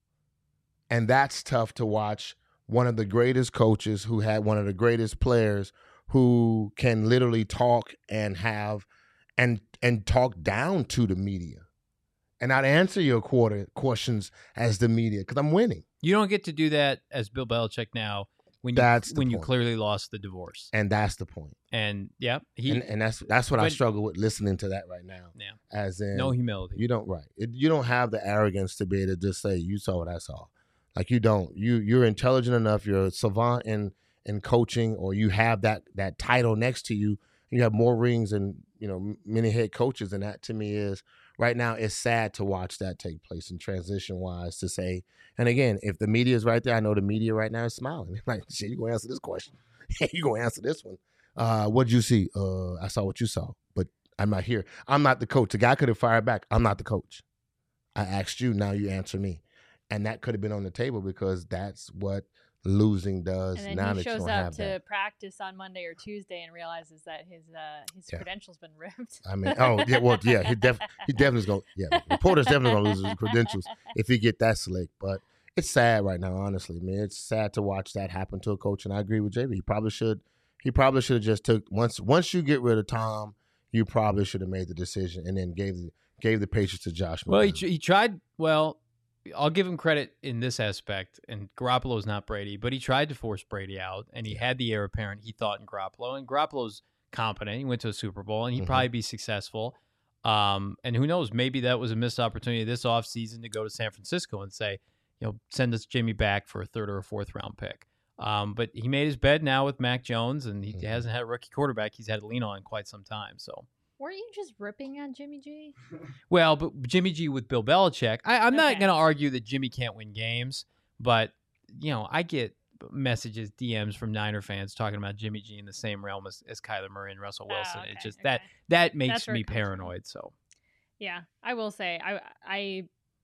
And that's tough to watch one of the greatest coaches who had one of the greatest players who can literally talk and have and and talk down to the media. And I'd answer your quarter questions as the media because I'm winning. You don't get to do that as Bill Belichick now when you That's the when you point. clearly lost the divorce. And that's the point. And yeah, he and, and that's that's what I but- struggle with listening to that right now. Yeah. As in no humility. You don't right. It, you don't have the arrogance to be able to just say you saw what I saw. Like you don't. You you're intelligent enough. You're a savant in in coaching, or you have that that title next to you. You have more rings and you know many head coaches, and that to me is right now. It's sad to watch that take place in transition wise to say. And again, if the media is right there, I know the media right now is smiling. Like, shit, you gonna answer this question? You gonna answer this one? Uh, what'd you see? Uh, I saw what you saw, but I'm not here. I'm not the coach. The guy could have fired back. I'm not the coach. I asked you. Now you answer me. And that could have been on the table because that's what losing does. And then now he that you shows don't up have to that. practice on Monday or Tuesday and realizes that his uh, his Yeah. credentials been ripped. I mean, oh yeah, well, yeah, he def he definitely's gonna yeah. Reporter's definitely gonna lose his credentials if he get that slick. But it's sad right now, honestly. I mean, it's sad to watch that happen to a coach. And I agree with J B. He probably should. He probably should have just took once. Once you get rid of Tom, you probably should have made the decision and then gave the gave the Patriots to Josh. Well, he, McDaniels. tr- he tried. Well, I'll give him credit in this aspect. And Garoppolo's not Brady, but he tried to force Brady out, and he had the heir apparent he thought in Garoppolo. And Garoppolo's competent. He went to a Super Bowl, and he'd Mhm. probably be successful. Um, and who knows? Maybe that was a missed opportunity this offseason to go to San Francisco and say, you know, send us Jimmy back for a third or a fourth round pick. Um, but he made his bed now with Mac Jones, and he Mhm. hasn't had a rookie quarterback he's had to lean on in quite some time. So. Weren't you just ripping on Jimmy G? Well, but Jimmy G with Bill Belichick, I, I'm not Okay. going to argue that Jimmy can't win games, but you know, I get messages, D Ms from Niner fans talking about Jimmy G in the same realm as, as Kyler Murray and Russell Oh, Wilson. okay, It's just okay. that that makes That's where me it comes from. paranoid. So Yeah, I will say I I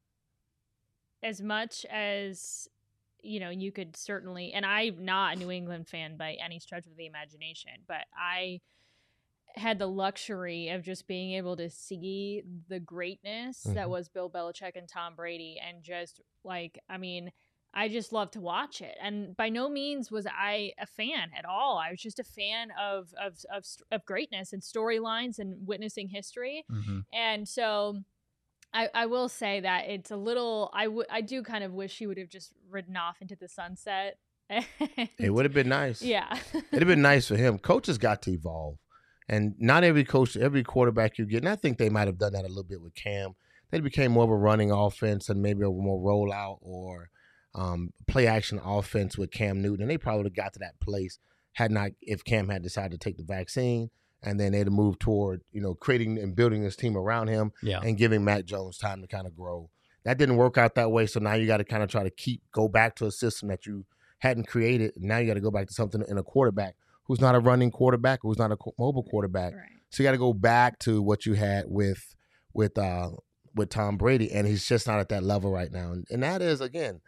as much as you know, you could certainly, and I'm not a New England fan by any stretch of the imagination, but I had the luxury of just being able to see the greatness that Mhm. was Bill Belichick and Tom Brady, and just like, I mean, I just love to watch it. And by no means was I a fan at all. I was just a fan of of of, of greatness and storylines and witnessing history. And so I, I will say that it's a little, I, w- I do kind of wish he would have just ridden off into the sunset. It would have been nice. Yeah. It'd have been nice for him. Coaches got to evolve. And not every coach, every quarterback you get, and I think they might have done that a little bit with Cam. They became more of a running offense and maybe a more rollout or um, play action offense with Cam Newton. And they probably would have got to that place had not, if Cam had decided to take the vaccine, and then they'd have moved toward, you know, creating and building this team around him yeah, and giving Mac Jones time to kind of grow. That didn't work out that way. So now you got to kind of try to keep, go back to a system that you hadn't created. Now you got to go back to something in a quarterback who's not a running quarterback, who's not a co- mobile quarterback. Right. So you got to go back to what you had with with uh, with Tom Brady, and he's just not at that level right now. And, and that is, again,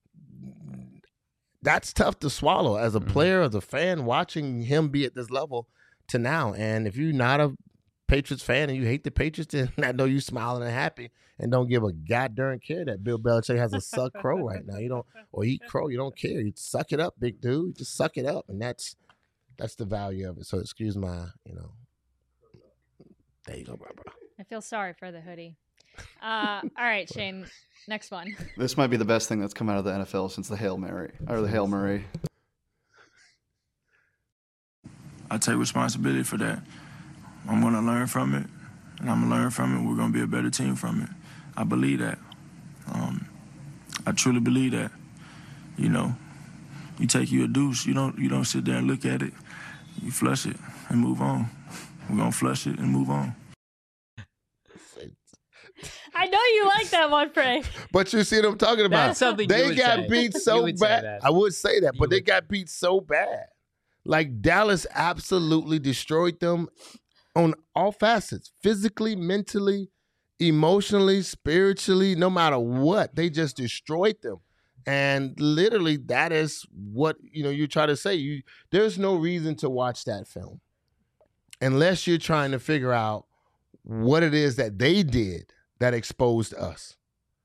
that's tough to swallow as a Mhm. player, as a fan, watching him be at this level to now. And if you're not a Patriots fan and you hate the Patriots, then I know you smiling and happy and don't give a goddamn care that Bill Belichick has a suck crow right now. You don't, or eat crow. You don't care. You suck it up, big dude. Just suck it up, and that's that's the value of it. So excuse my, you know. There you go, bro, bro. I feel sorry for the hoodie. Uh, all right, Shane. Next one. This might be the best thing that's come out of the N F L since the Hail Mary or the Hail Murray. I take responsibility for that. I'm going to learn from it, and I'm going to learn from it. We're going to be a better team from it. I believe that. Um, I truly believe that. You know, you take you a deuce, you don't you don't sit there and look at it. You flush it and move on. We're going to flush it and move on. I know you like that one, Frank. But you see what I'm talking about. That's something they you would got say. beat so You would say bad. that. I would say that, You but they would. got beat so bad. Like Dallas absolutely destroyed them on all facets, physically, mentally, emotionally, spiritually, no matter what. They just destroyed them. And literally that is what, you know, you try to say. You there's no reason to watch that film unless you're trying to figure out what it is that they did that exposed us.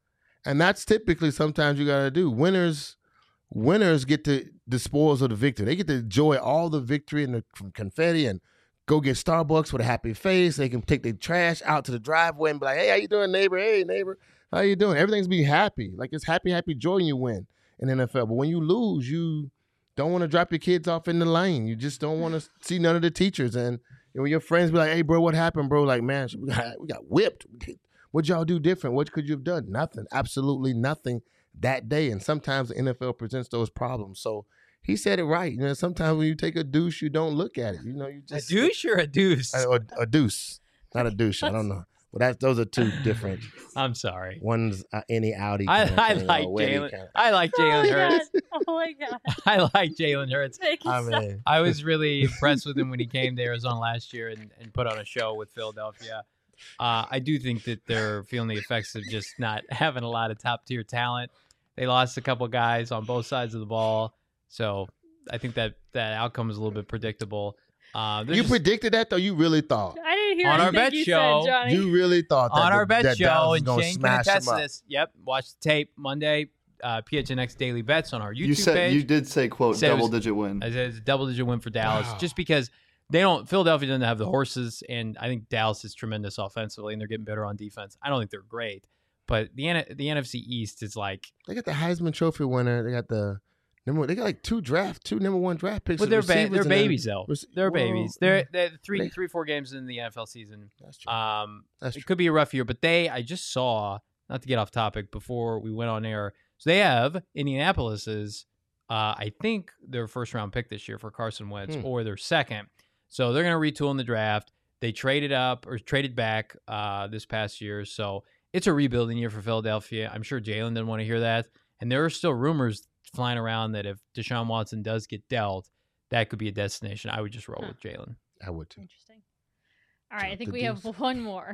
And that's typically sometimes you got to do. Winners winners get to the spoils of the victory. They get to enjoy all the victory and the confetti and go get Starbucks with a happy face. They can take their trash out to the driveway and be like, hey, how you doing, neighbor? Hey, neighbor, how you doing? Everything's be happy. Like it's happy, happy joy when you win in the N F L. But when you lose, you don't want to drop your kids off in the lane. You just don't want to see none of the teachers. And you know, when your friends be like, hey, bro, what happened, bro? Like, man, we got, we got whipped. What'd y'all do different? What could you have done? Nothing. Absolutely nothing that day. And sometimes the N F L presents those problems. So he said it right. You know, sometimes when you take a douche, you don't look at it. You know, you just A douche or a deuce? a, or a deuce, not a douche. I don't know. Well, that's those are two different. I'm sorry. One's uh, any Audi. I, kind of I thing, like or Weddy Jalen. kind of- I like Oh my Jalen Hurts. God. Oh my God. I like Jalen Hurts. Make it I stop. mean, I was really impressed with him when he came to Arizona last year and, and put on a show with Philadelphia. Uh, I do think that they're feeling the effects of just not having a lot of top tier talent. They lost a couple guys on both sides of the ball, so I think that that outcome is a little bit predictable. Uh, they're you just- predicted that though. You really thought. I didn't hear On our anything bet you show, said, Johnny. You really thought that on the, our bet that show, Dallas was and gonna Shane can smash attest them to up. this. Yep, watch the tape Monday. Uh, P H N X Daily Bets on our YouTube You said page. you did say quote Said it was- double digit win. I said it's a double digit win for Dallas, Wow. just because they don't. Philadelphia doesn't have the horses, and I think Dallas is tremendous offensively, and they're getting better on defense. I don't think they're great, but the N- the N F C East is like. They got the Heisman Trophy winner. They got the number. They got like two draft, two number one draft picks. But of they're ba- receivers they're and then- babies though. rec- They're well, babies. They're they're three they- three four games in the N F L season. That's true. Um, That's it true. could be a rough year, but they I just saw, not to get off topic before we went on air. So they have Indianapolis's, uh, I think their first round pick this year for Carson Wentz, Hmm. or their second. So they're going to retool in the draft. They traded up or traded back uh, this past year. So it's a rebuilding year for Philadelphia. I'm sure Jalen didn't want to hear that. And there are still rumors flying around that if Deshaun Watson does get dealt, that could be a destination. I would just roll Huh. with Jalen. I would too. Interesting. All right, I Drop think the we have deuce. one more.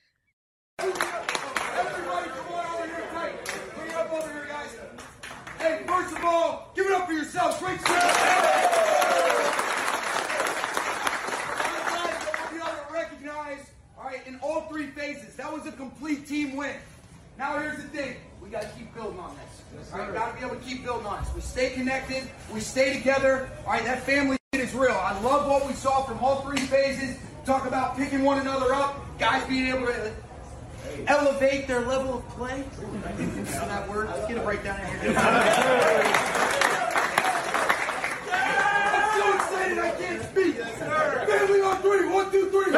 Everybody, come on over here, tight. Bring it up over here, guys. Hey, first of all, give it up for yourselves. Great job. I want you all to recognize, all right, in all three phases, that was a complete team win. Now here's the thing. We got to keep building on this. All right, we got to be able to keep building on this. We stay connected. We stay together. All right, that family is real. I love what we saw from all three phases. Talk about picking one another up. Guys being able to elevate their level of play. Is that word? Let's get a breakdown in here. I'm so excited I can't speak. Family on three. One, two, three.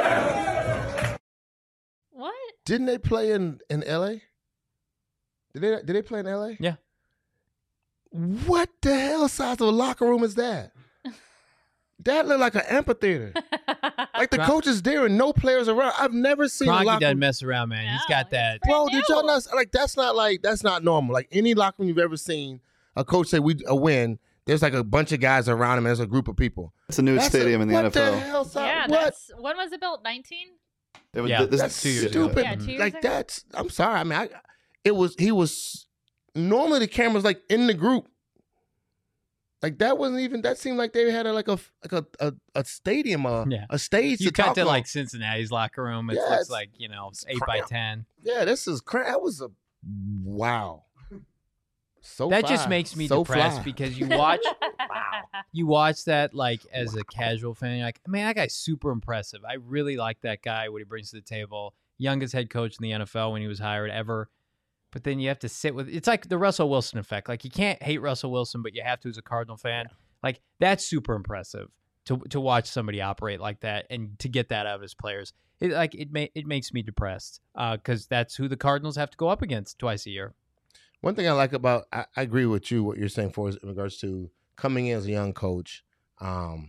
What? Didn't they play in, in L A? Did they did they play in L A? Yeah. What the hell size of a locker room is that? That looked like an amphitheater. Like the Cron- coach is there and no players around. I've never seen a Kroenke locker doesn't room. mess around, man. He's No, got that. he's Bro, brand did y'all new. not like that's not like that's not normal. Like any locker room you've ever seen, a coach say we a win. There's like a bunch of guys around him. There's a group of people. It's a new That's stadium a, in the what N F L. The hell, son? Yeah, what? that's when was it built? nineteen? It was, Yeah, this, That's two years ago. stupid. Yeah, two years like ago. that's. I'm sorry. I mean, I, it was. He was. Normally the camera's like in the group, Like that wasn't even. That seemed like they had a, like a like a a, a stadium, a, Yeah. a stage. You to cut talk to on. like Cincinnati's locker room. It Yeah, looks it's- like, you know, it's eight by crap. ten. Yeah, this is crap. That was a wow. So That just fly. makes me so depressed fly. because you watch you watch that like as a casual fan. You're like, man, that guy's super impressive. I really like that guy, what he brings to the table. Youngest head coach in the N F L when he was hired ever. But then you have to sit with it's like the Russell Wilson effect. Like you can't hate Russell Wilson, but you have to as a Cardinal fan. Like that's super impressive to to watch somebody operate like that and to get that out of his players. It like it may it makes me depressed because uh, that's who the Cardinals have to go up against twice a year. One thing I like about I, I agree with you what you're saying for in regards to coming in as a young coach. Um,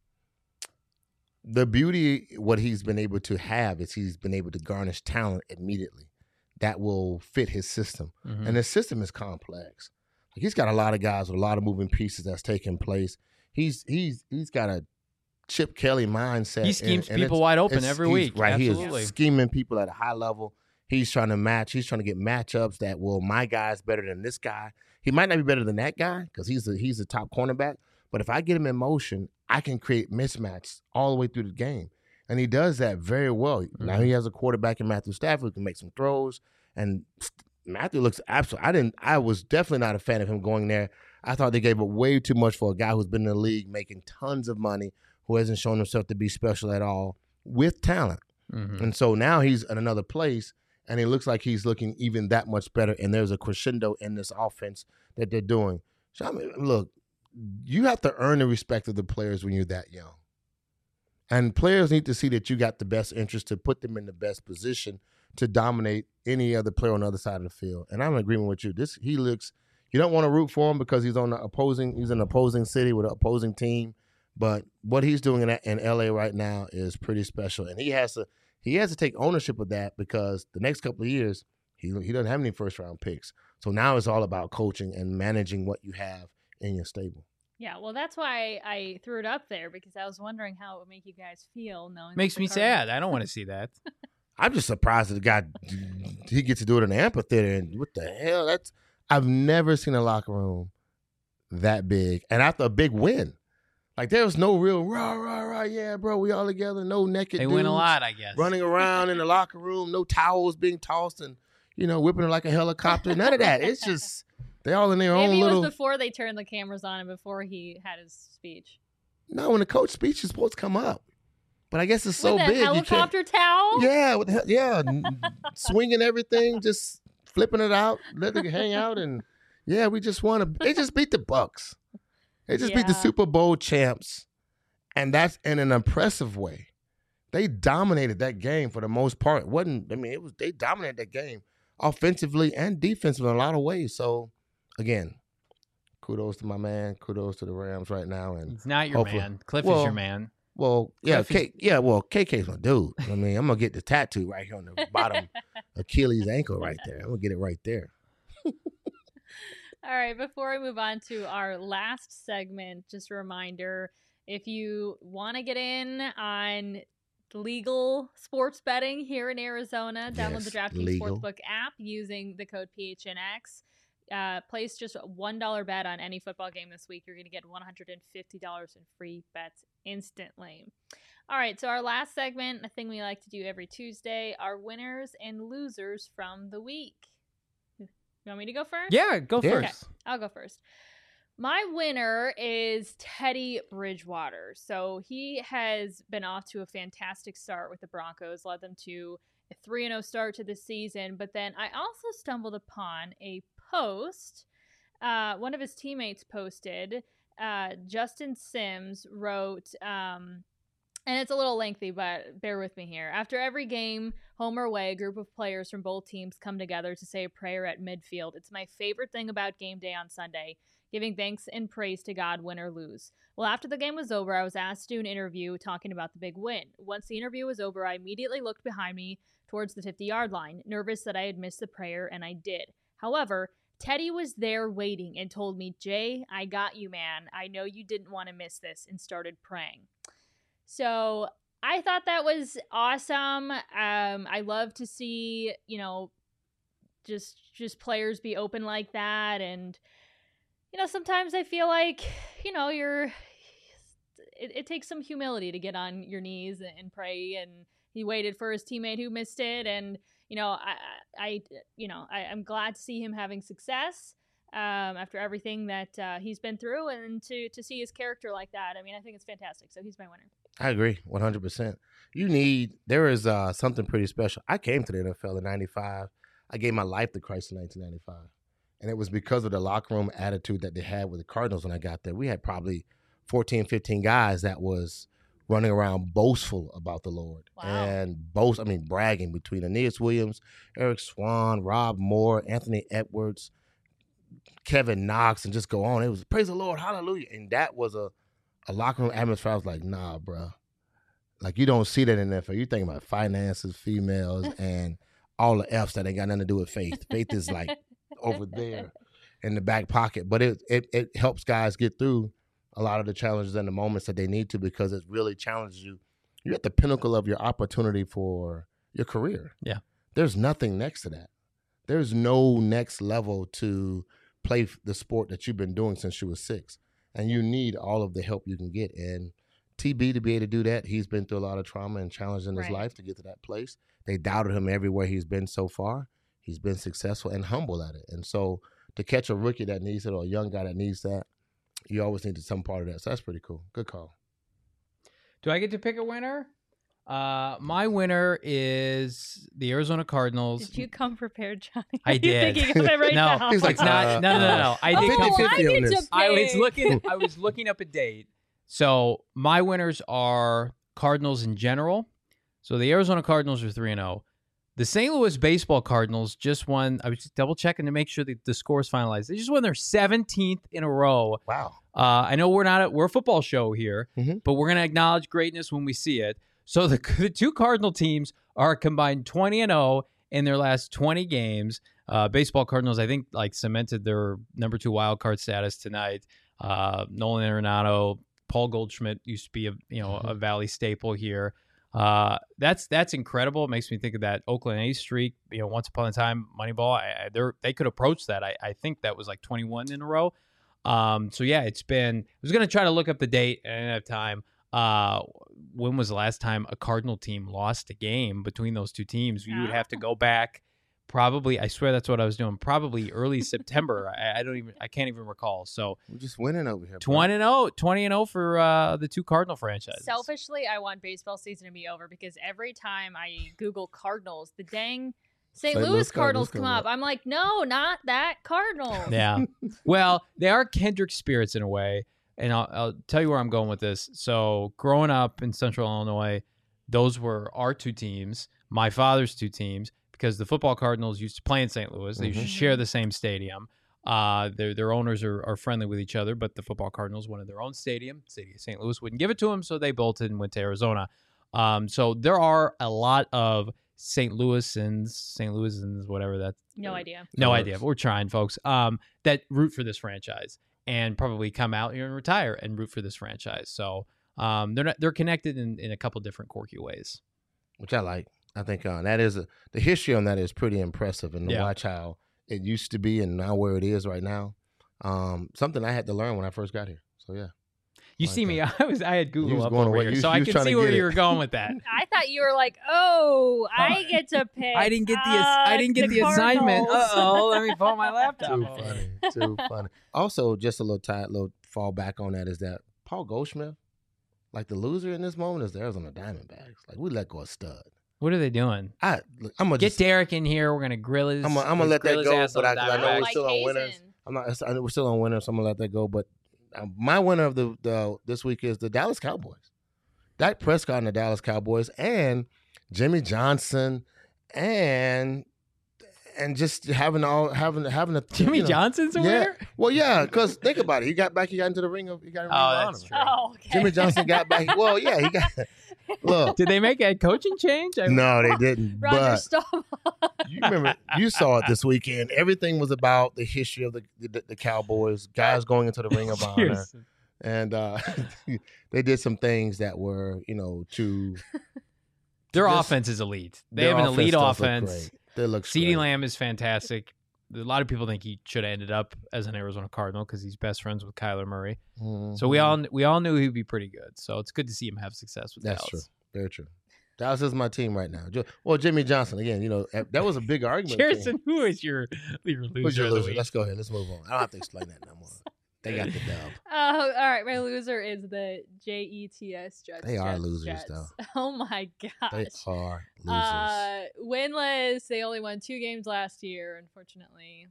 the beauty what he's been able to have is he's been able to garnish talent immediately that will fit his system, Mhm. and his system is complex. Like he's got a lot of guys with a lot of moving pieces that's taking place. He's he's he's got a Chip Kelly mindset. He schemes and- and people it's- wide open it's- every he's- week. Right, Absolutely. he is scheming people at a high level. He's trying to match. He's trying to get matchups that, well, my guy's better than this guy. He might not be better than that guy because he's a, he's a top cornerback. But if I get him in motion, I can create mismatches all the way through the game. And he does that very well. Now he has a quarterback in Matthew Stafford who can make some throws. And Matthew looks absolutely. I didn't. I was definitely not a fan of him going there. I thought they gave up way too much for a guy who's been in the league making tons of money, who hasn't shown himself to be special at all with talent. Mm-hmm. And so now he's in another place, and it looks like he's looking even that much better. And there's a crescendo in this offense that they're doing. So I mean, look, you have to earn the respect of the players when you're that young. And players need to see that you got the best interest to put them in the best position to dominate any other player on the other side of the field. And I'm in agreement with you. This he looks. You don't want to root for him because he's on the opposing. He's in an opposing city with an opposing team. But what he's doing in, in L A right now is pretty special, and he has to. He has to take ownership of that because the next couple of years he he doesn't have any first round picks. So now it's all about coaching and managing what you have in your stable. Yeah, well, that's why I threw it up there because I was wondering how it would make you guys feel knowing. Makes that the me Cardinals- sad. I don't want to see that. I'm just surprised that the guy he gets to do it in the amphitheater. And what the hell? That's I've never seen a locker room that big, and after a big win, like there was no real rah rah rah. Yeah, bro, we all together. No naked. They win a dudes lot, I guess. running around in the locker room. No towels being tossed and you know whipping it like a helicopter. None of that. It's just they all in their Maybe own it little. was before they turned the cameras on and before he had his speech. No, when the coach speech is supposed to come up, but I guess it's so With a big. you can't- helicopter towel? Yeah, with the, yeah, n- swinging everything, just flipping it out, letting it hang out, and yeah, we just won. A, they just beat the Bucks. They just beat the Yeah. Super Bowl champs, and that's in an impressive way. They dominated that game for the most part. It wasn't I mean, it was they dominated that game offensively and defensively in a lot of ways. So, again, kudos to my man. Kudos to the Rams right now, and He's not your hopefully- man. Cliff is well, your man. Well, yeah, Cliff is- K, yeah, well, K K's my dude. I mean, I'm gonna get the tattoo right here on the bottom Achilles ankle right there. I'm gonna get it right there. All right, before we move on to our last segment, just a reminder, if you want to get in on legal sports betting here in Arizona, download the Yes, DraftKings legal. Sportsbook app using the code P H N X. Uh, place just a one dollar bet on any football game this week. You're going to get one hundred fifty dollars in free bets instantly. All right, so our last segment, a thing we like to do every Tuesday, are winners and losers from the week. You want me to go first? Yeah, go Yeah. first. Okay, I'll go first. My winner is Teddy Bridgewater. So he has been off to a fantastic start with the Broncos, led them to a three and oh start to the season. But then I also stumbled upon a post. Uh, one of his teammates posted, uh, Justin Sims wrote, um, and it's a little lengthy, but bear with me here. After every game, home or away, a group of players from both teams come together to say a prayer at midfield. It's my favorite thing about game day on Sunday, giving thanks and praise to God, win or lose. Well, after the game was over, I was asked to do an interview talking about the big win. Once the interview was over, I immediately looked behind me towards the fifty-yard line, nervous that I had missed the prayer, and I did. However, Teddy was there waiting and told me, Jay, I got you, man. I know you didn't want to miss this, and started praying. So I thought that was awesome. Um, I love to see, you know, just just players be open like that. And, you know, sometimes I feel like, you know, you're, it, it takes some humility to get on your knees and, and pray. And he waited for his teammate who missed it. And, you know, I, I you know, I, I'm glad to see him having success um, after everything that uh, he's been through, and to, to see his character like that. I mean, I think it's fantastic. So he's my winner. I agree, one hundred percent. You need, there is uh, something pretty special. I came to the N F L in ninety-five. I gave my life to Christ in nineteen ninety-five. And it was because of the locker room attitude that they had with the Cardinals when I got there. We had probably fourteen, fifteen guys that was running around boastful about the Lord. Wow. And boast, I mean, bragging between Aeneas Williams, Eric Swan, Rob Moore, Anthony Edwards, Kevin Knox, and just go on. It was praise the Lord, hallelujah. And that was a, a locker room atmosphere. I was like, nah, bro. Like, you don't see that in the N F L. You're thinking about finances, females, and all the F's that ain't got nothing to do with faith. Faith is like over there in the back pocket. But it, it it helps guys get through a lot of the challenges and the moments that they need to, because it really challenges you. You're at the pinnacle of your opportunity for your career. Yeah. There's nothing next to that. There's no next level to play the sport that you've been doing since you were six. And you need all of the help you can get. And T B, to be able to do that, he's been through a lot of trauma and challenge in his Right. life to get to that place. They doubted him everywhere he's been so far. He's been successful and humble at it. And so to catch a rookie that needs it, or a young guy that needs that, you always need some part of that. So that's pretty cool. Good call. Do I get to pick a winner? Uh, my winner is the Arizona Cardinals. Did you come prepared, Johnny? I Are did. You thinking of it right no, now? He's like, it's not. uh, no, no, no, no. I did. oh, come- I fifty on get to this. I was pick. looking. I was looking up a date. So my winners are Cardinals in general. So the Arizona Cardinals are three and zero. The Saint Louis Baseball Cardinals just won. I was just double checking to make sure that the score is finalized. They just won their seventeenth in a row. Wow. Uh, I know we're not. A, we're a football show here, Mhm. but we're going to acknowledge greatness when we see it. So the, the two Cardinal teams are combined twenty and zero in their last twenty games. Uh, Baseball Cardinals, I think, like cemented their number two wild card status tonight. Uh, Nolan Arenado, Paul Goldschmidt used to be a you know a Valley staple here. Uh, that's that's incredible. It makes me think of that Oakland A's streak. You know, once upon a time, Moneyball. I, I, they're, they could approach that. I, I think that was like twenty-one in a row. Um, so yeah, it's been. I was gonna try to look up the date. I didn't have time. Uh, when was the last time a Cardinal team lost a game between those two teams? You would have to go back. Probably, I swear that's what I was doing. Probably early September. I, I don't even. I can't even recall. So We're just winning over here. bro. twenty and oh, twenty and oh for uh, the two Cardinal franchises. Selfishly, I want baseball season to be over, because every time I Google Cardinals, the dang Saint Saint Louis, Louis Cardinals Cardinals come come up. I'm like, no, not that Cardinals. Yeah. Well, they are kindred spirits in a way. And I'll, I'll tell you where I'm going with this. So growing up in Central Illinois, those were our two teams, my father's two teams, because the football Cardinals used to play in Saint Louis. They used to share the same stadium. Uh, their their owners are, are friendly with each other, but the football Cardinals wanted their own stadium. The city of Saint Louis wouldn't give it to them, so they bolted and went to Arizona. Um, so there are a lot of Saint Louisans, Saint Louisans, whatever that. No idea. No That idea. works. But we're trying, folks. Um, that root for this franchise and probably come out here and retire and root for this franchise. So um, they're not, they're connected in, in a couple different quirky ways. Which I like. I think uh, that is a, the history on that is pretty impressive, and to Yeah. watch how it used to be and now where it is right now. Um, something I had to learn when I first got here. So yeah, You Like see me, I was I had You Google was up going over away. here, You- so you I was can trying to see where get you it. were going with that. I thought you were like, oh, I get to pick. I didn't get the ass- uh, I didn't get the, assignment. Uh Cardinals. oh, let me pull my laptop. too over. funny, too funny. Also, just a little tight, little fall back on that is that Paul Goldschmidt, like the loser in this moment, is the Arizona Diamondbacks. Like we let go a stud. What are they doing? I look, I'm gonna Get just, Derek in here. We're gonna grill his. I'm gonna, I'm gonna let grill that his go, ass but on I, 'cause I know Diamondbacks. we're Like still on Hazen. winners. I'm not. I know we're still on winners, so I'm gonna let that go. But um, my winner of the, the this week is the Dallas Cowboys. Dak Prescott and the Dallas Cowboys, and Jimmy Johnson, and and just having all having having a Jimmy you know, Johnson's a yeah. winner. Well, yeah, because think about it. He got back. He got into the ring of. He got. In the Oh, ring of that's honor. true. Oh, okay. Jimmy Johnson got back. Well, yeah, he got. Look, Did they make a coaching change? I- no, they didn't. Roger but Staubach. you remember, you saw it this weekend. Everything was about the history of the the, the Cowboys, guys going into the ring of honor, Yes. and uh, they did some things that were, you know, to Their This- offense is elite. They their have an elite does look offense. great. They look CeeDee great. Lamb is fantastic. a lot of people think he should have ended up as an Arizona Cardinal because he's best friends with Kyler Murray. Mm-hmm. So we all we all knew he'd be pretty good. So it's good to see him have success with That's Dallas. true. Very true. Dallas is my team right now. Well, Jimmy Johnson again. You know that was a big argument. Kirsten, who is your your loser? Who's your of the loser? week? Let's go ahead. Let's move on. I don't have to explain that no more. They got the dub. Oh, all right. My loser is the J E T S Jets. They are Jets, losers, Jets. though. Oh my gosh. They are losers. Uh, winless. They only won two games last year, unfortunately.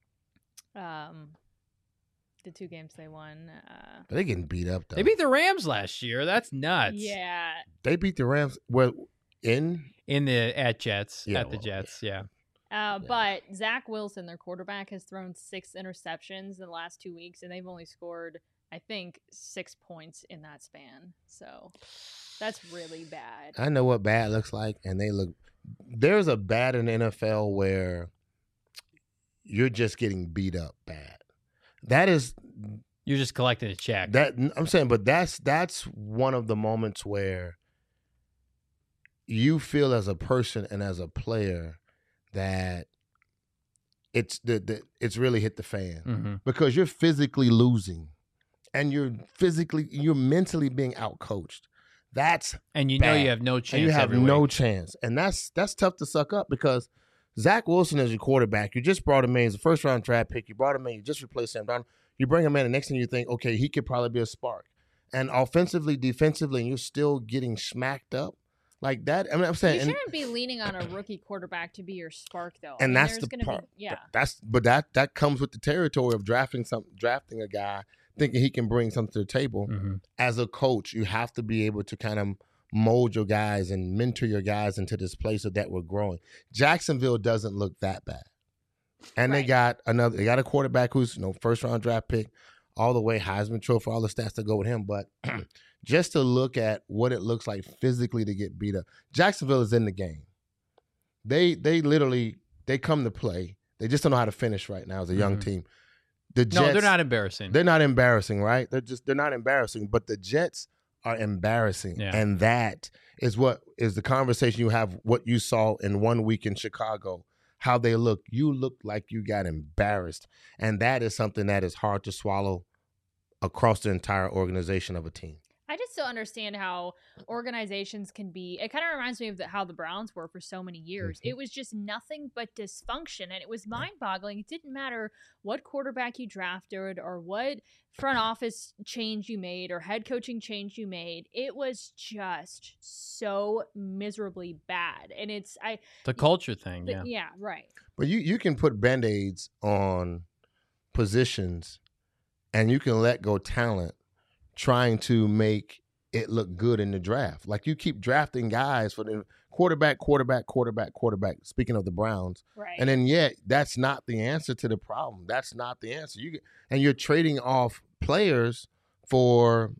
Um, the two games they won. Uh, but they getting beat up though. They beat the Rams last year. That's nuts. Yeah. They beat the Rams. Well, in in the at Jets Yeah, at the well, Jets. Yeah. Uh, but Zach Wilson, their quarterback, has thrown six interceptions in the last two weeks, and they've only scored, I think, six points in that span. So that's really bad. I know what bad looks like, and they look. There's a bad in the N F L where you're just getting beat up bad. That is, You're just collecting a check. that I'm saying, but that's that's one of the moments where you feel as a person and as a player that it's the, the it's really hit the fan Mm-hmm. because you're physically losing and you're physically you're mentally being outcoached. That's And you know bad. you have no chance. and you have every no week. chance, and that's that's tough to suck up because Zach Wilson is your quarterback. You just brought him in. He's a first round draft pick. You brought him in. You just replaced Sam Darnold. You bring him in, and next thing you think, okay, he could probably be a spark. And offensively, defensively, and you're still getting smacked up like that. I mean, I'm saying, You and, shouldn't be leaning on a rookie quarterback to be your spark, though. I and mean, that's there's the gonna part. Be, yeah. That's but that that comes with the territory of drafting some drafting a guy thinking he can bring something to the table. Mm-hmm. As a coach, you have to be able to kind of mold your guys and mentor your guys into this place of that we're growing. Jacksonville doesn't look that bad. And they Right. got another they got a quarterback who's, you know, first round draft pick, all the way Heisman Trophy, all the stats that go with him. But just to look at what it looks like physically to get beat up. Jacksonville is in the game. They they literally they come to play. They just don't know how to finish right now as a young Mhm. team. The Jets, No, they're not embarrassing. they're not embarrassing, right? They're just they're not embarrassing, but the Jets are embarrassing. Yeah. And that is what is the conversation you have, what you saw in one week in Chicago, how they look. You look like you got embarrassed. And that is something that is hard to swallow across the entire organization of a team. I just don't understand how organizations can be. It kind of reminds me of the, how the Browns were for so many years. Mm-hmm. It was just nothing but dysfunction, and it was mind-boggling. It didn't matter what quarterback you drafted or what front office change you made or head coaching change you made. It was just so miserably bad, and it's I. The culture thing, the- yeah. yeah, right. But you, you can put Band-Aids on positions and you can let go talent trying to make it look good in the draft. Like you keep drafting guys for the quarterback, quarterback, quarterback, quarterback, speaking of the Browns. Right. And then yet that's not the answer to the problem. That's not the answer. You get, and you're trading off players for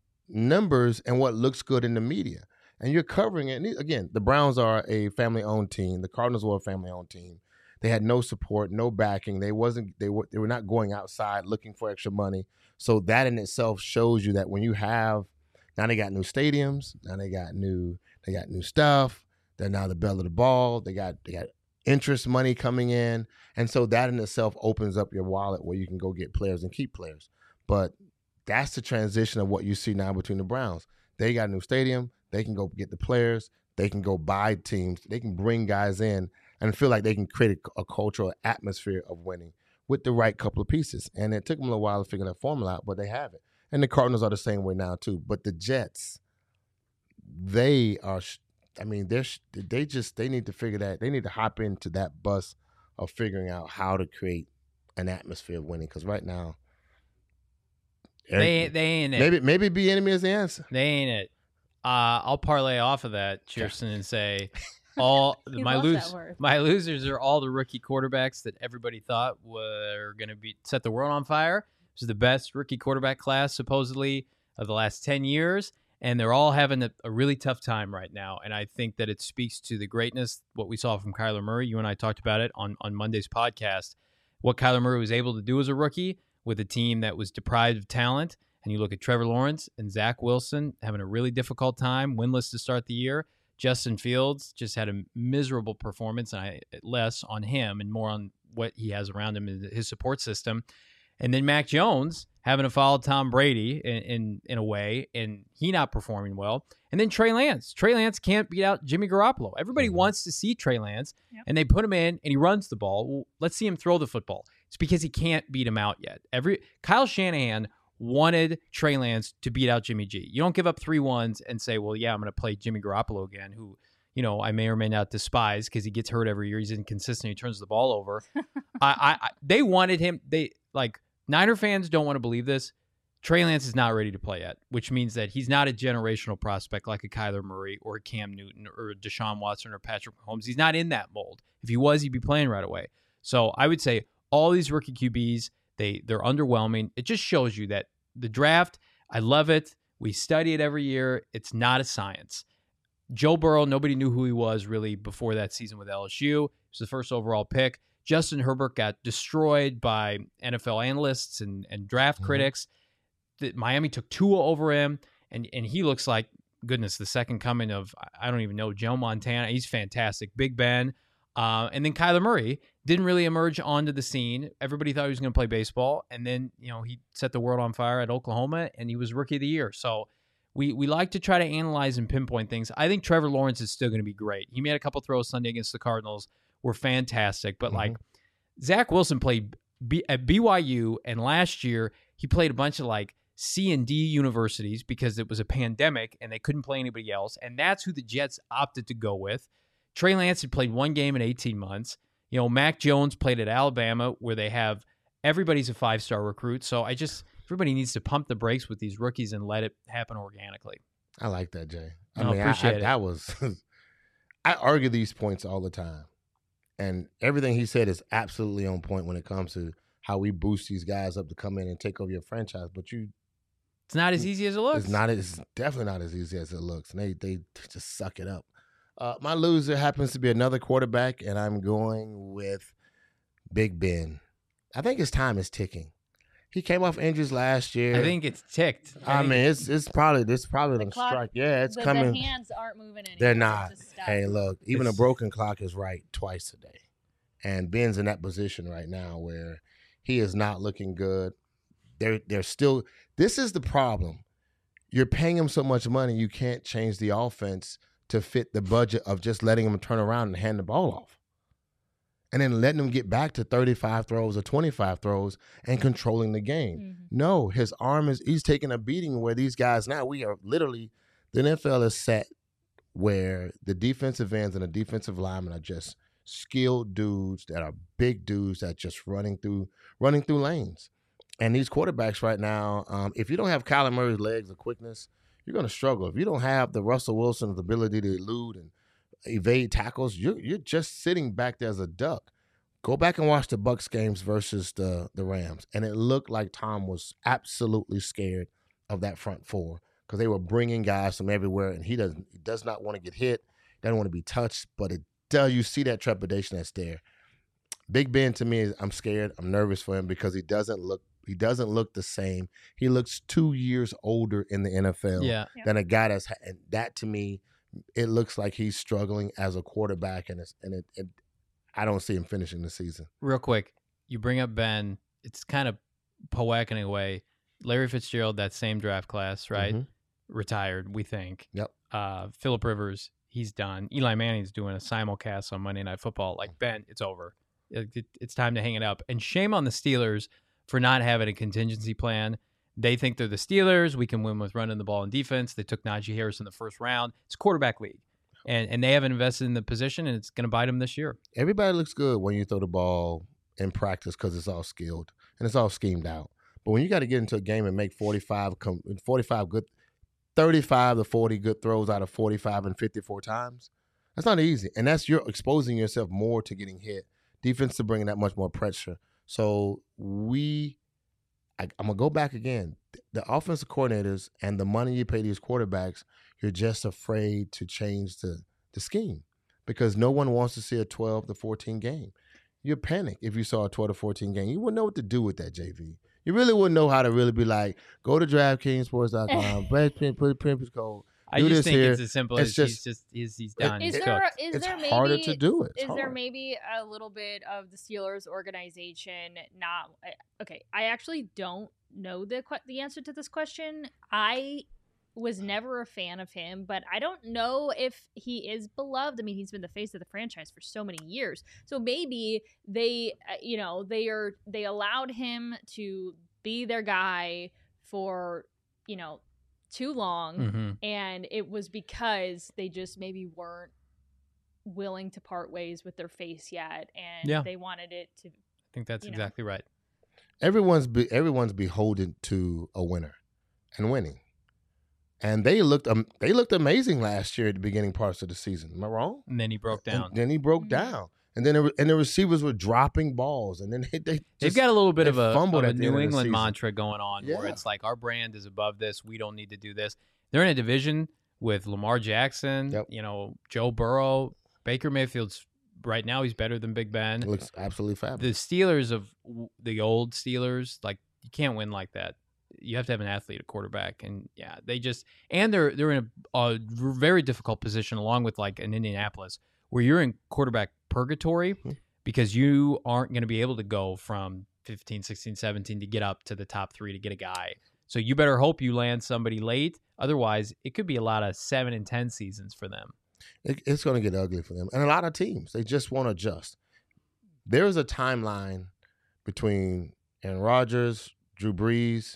numbers and what looks good in the media. And you're covering it. And again, the Browns are a family-owned team. The Cardinals were a family-owned team. They had no support, no backing. They wasn't. They were. They were not going outside looking for extra money. So that in itself shows you that when you have now they got new stadiums, now they got new. They got new stuff. They're now the belle of the ball. They got. They got interest money coming in, and so that in itself opens up your wallet where you can go get players and keep players. But that's the transition of what you see now between the Browns. They got a new stadium. They can go get the players. They can go buy teams. They can bring guys in and feel like they can create a, a cultural atmosphere of winning with the right couple of pieces. And it took them a little while to figure that formula out, but they have it. And the Cardinals are the same way now too. But the Jets, they are, I mean, they're they just they need to figure that. They need to hop into that bus of figuring out how to create an atmosphere of winning. Because right now, They, they ain't it. maybe maybe be enemy is the answer. They ain't it. Uh, I'll parlay off of that, Kirsten, and say all He my loves lose that word. my losers are all the rookie quarterbacks that everybody thought were going to be set the world on fire. This is the best rookie quarterback class supposedly of the last ten years, and they're all having a, a really tough time right now. And I think that it speaks to the greatness what we saw from Kyler Murray. You and I talked about it on on Monday's podcast. What Kyler Murray was able to do as a rookie with a team that was deprived of talent. And you look at Trevor Lawrence and Zach Wilson having a really difficult time, winless to start the year. Justin Fields just had a miserable performance, and I less on him and more on what he has around him in his support system. And then Mac Jones having to follow Tom Brady in, in, in a way, and he not performing well. And then Trey Lance. Trey Lance can't beat out Jimmy Garoppolo. Everybody mm-hmm. wants to see Trey Lance, yep. and they put him in, and he runs the ball. Well, let's see him throw the football. It's because he can't beat him out yet. Every Kyle Shanahan wanted Trey Lance to beat out Jimmy G. You don't give up three ones and say, well, yeah, I'm going to play Jimmy Garoppolo again, who, you know, I may or may not despise because he gets hurt every year. He's inconsistent. He turns the ball over. I, I, they wanted him. They like Niner fans don't want to believe this. Trey Lance is not ready to play yet, which means that he's not a generational prospect like a Kyler Murray or a Cam Newton or a Deshaun Watson or Patrick Mahomes. He's not in that mold. If he was, he'd be playing right away. So I would say all these rookie Q Bs, they, they're underwhelming. It just shows you that the draft, I love it. We study it every year. It's not a science. Joe Burrow, nobody knew who he was really before that season with L S U. He was the first overall pick. Justin Herbert got destroyed by N F L analysts and, and draft mm-hmm. critics. The, Miami took Tua over him, and, and he looks like, goodness, the second coming of, I don't even know, Joe Montana. He's fantastic. Big Ben. Uh, and then Kyler Murray didn't really emerge onto the scene. Everybody thought he was going to play baseball, and then, you know, he set the world on fire at Oklahoma, and he was Rookie of the Year. So we we like to try to analyze and pinpoint things. I think Trevor Lawrence is still going to be great. He made a couple throws Sunday against the Cardinals, were fantastic. But, mm-hmm. like, Zach Wilson played B- at B Y U, and last year he played a bunch of, like, C and D universities because it was a pandemic, and they couldn't play anybody else, and that's who the Jets opted to go with. Trey Lance had played one game in eighteen months. You know, Mac Jones played at Alabama where they have everybody's a five-star recruit. So I just, everybody needs to pump the brakes with these rookies and let it happen organically. I like that, Jay. I I mean, appreciate I, I, it. that was, I argue these points all the time. And everything he said is absolutely on point when it comes to how we boost these guys up to come in and take over your franchise. But you, it's not as easy as it looks. It's not. It's definitely not as easy as it looks. And they, they just suck it up. Uh, my loser happens to be another quarterback, and I'm going with Big Ben. I think his time is ticking. He came off injuries last year. I think it's ticked. I, I mean, it's it's probably it's probably the gonna clock, strike. Yeah, it's the, coming. The hands aren't moving anymore. They're not. Stop. Hey, look, even It's- a broken clock is right twice a day, and Ben's in that position right now where he is not looking good. They're they're still. This is the problem. You're paying him so much money, you can't change the offense to fit the budget of just letting him turn around and hand the ball off. And then letting him get back to thirty-five throws or twenty-five throws and controlling the game. Mm-hmm. No, his arm is, he's taking a beating where these guys now, we are literally, the N F L is set where the defensive ends and the defensive linemen are just skilled dudes that are big dudes that just running through, running through lanes. And these quarterbacks right now, um, if you don't have Kyler Murray's legs or quickness, you're going to struggle. If you don't have the Russell Wilson's ability to elude and evade tackles, you're, you're just sitting back there as a duck. Go back and watch the Bucs games versus the, the Rams, and it looked like Tom was absolutely scared of that front four because they were bringing guys from everywhere, and he doesn't he does not want to get hit, doesn't want to be touched, but it does. You see that trepidation that's there. Big Ben to me is I'm scared. I'm nervous for him because he doesn't look he doesn't look the same. He looks two years older in the N F L Yeah. than a guy that's and that to me, it looks like he's struggling as a quarterback, and it's, and it, it I don't see him finishing the season. Real quick, you bring up Ben. It's kind of poetic in a way. Larry Fitzgerald, that same draft class, right? Mhm. Retired, we think. Yep. Uh, Phillip Rivers, he's done. Eli Manning's doing a simulcast on Monday Night Football. Like, Ben, it's over. It, it, it's time to hang it up. And shame on the Steelers for not having a contingency plan. They think they're the Steelers. We can win with running the ball and defense. They took Najee Harris in the first round. It's a quarterback league. And and they haven't invested in the position, and it's going to bite them this year. Everybody looks good when you throw the ball in practice because it's all skilled and it's all schemed out. But when you got to get into a game and make forty-five, forty-five good, thirty-five to forty good throws out of forty-five and fifty-four times, that's not easy. And that's you're exposing yourself more to getting hit. Defense to bringing that much more pressure. So we, I, I'm going to go back again. The offensive coordinators and the money you pay these quarterbacks, you're just afraid to change the, the scheme because no one wants to see a twelve to fourteen game. You'd panic if you saw a twelve to fourteen game. You wouldn't know what to do with that, J V. You really wouldn't know how to really be like, go to DraftKings Sports dot com, put put Pimpers code, I do just this think here. it's as simple It's as just, he's just he's, he's done. Is he's there cooked. is it's there maybe harder to do it. It's is there hard. maybe a little bit of the Steelers organization not okay? I actually don't know the que- the answer to this question. I was never a fan of him, but I don't know if he is beloved. I mean, he's been the face of the franchise for so many years. So maybe they, uh, you know, they are they allowed him to be their guy for, you know, too long, Mm-hmm. and it was because they just maybe weren't willing to part ways with their face yet, and Yeah. they wanted it to. I think that's you know. exactly right. Everyone's be, everyone's beholden to a winner and winning. And they looked um, they looked amazing last year at the beginning parts of the season. Am I wrong? And then he broke down. And then he broke Mhm. down. And then it, and the receivers were dropping balls. And then they, they just, They've got a little bit they of a, of fumbled a at the end New of the England season. mantra going on where Yeah. it's like our brand is above this. We don't need to do this. They're in a division with Lamar Jackson, Yep. you know, Joe Burrow, Baker Mayfield's right now he's better than Big Ben. It looks absolutely The fabulous. Steelers of w- the old Steelers, like you can't win like that. You have to have an athlete at quarterback, and yeah, they just and they're they're in a, a very difficult position, along with like an Indianapolis, where you're in quarterback purgatory Mhm. because you aren't going to be able to go from fifteen, sixteen, seventeen to get up to the top three to get a guy. So you better hope you land somebody late. Otherwise, it could be a lot of seven and ten seasons for them. It, it's going to get ugly for them. And a lot of teams, they just won't adjust. There is a timeline between Aaron Rodgers, Drew Brees.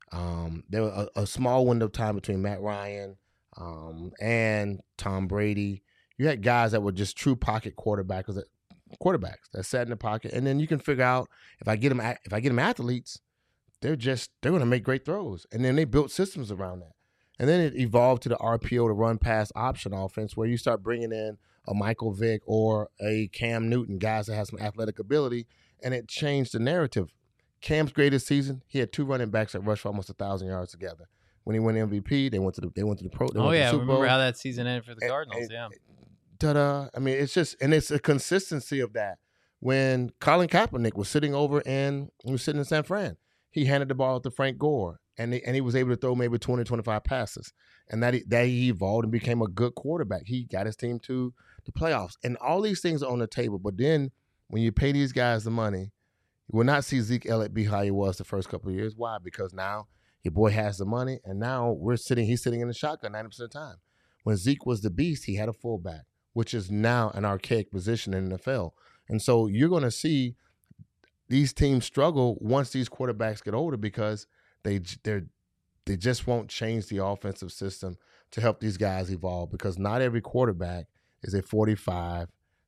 Um, there was a, a small window of time between Matt Ryan um, and Tom Brady. You had guys that were just true pocket quarterbacks, that, quarterbacks that sat in the pocket, and then you can figure out if I get them, if I get them athletes, they're just they're going to make great throws, and then they built systems around that, and then it evolved to the R P O, the run pass option offense, where you start bringing in a Michael Vick or a Cam Newton, guys that have some athletic ability, and it changed the narrative. Cam's greatest season, he had two running backs that rushed for almost a thousand yards together. When he won M V P, they went to the they went to the pro. They Oh went yeah, to the Super remember Bowl. how that season ended for the And- Cardinals? and- yeah, Ta-da! I mean, it's just and it's a consistency of that. When Colin Kaepernick was sitting over in he was sitting in San Fran, he handed the ball to Frank Gore, and they, and he was able to throw maybe twenty, twenty-five passes, and that he, that he evolved and became a good quarterback. He got his team to the playoffs, and all these things are on the table. But then when you pay these guys the money, you will not see Zeke Elliott be how he was the first couple of years. Why? Because now your boy has the money, and now we're sitting. He's sitting in the shotgun ninety percent of the time. When Zeke was the beast, he had a fullback, which is now an archaic position in the N F L. And so you're going to see these teams struggle once these quarterbacks get older because they they they just won't change the offensive system to help these guys evolve, because not every quarterback is a forty-five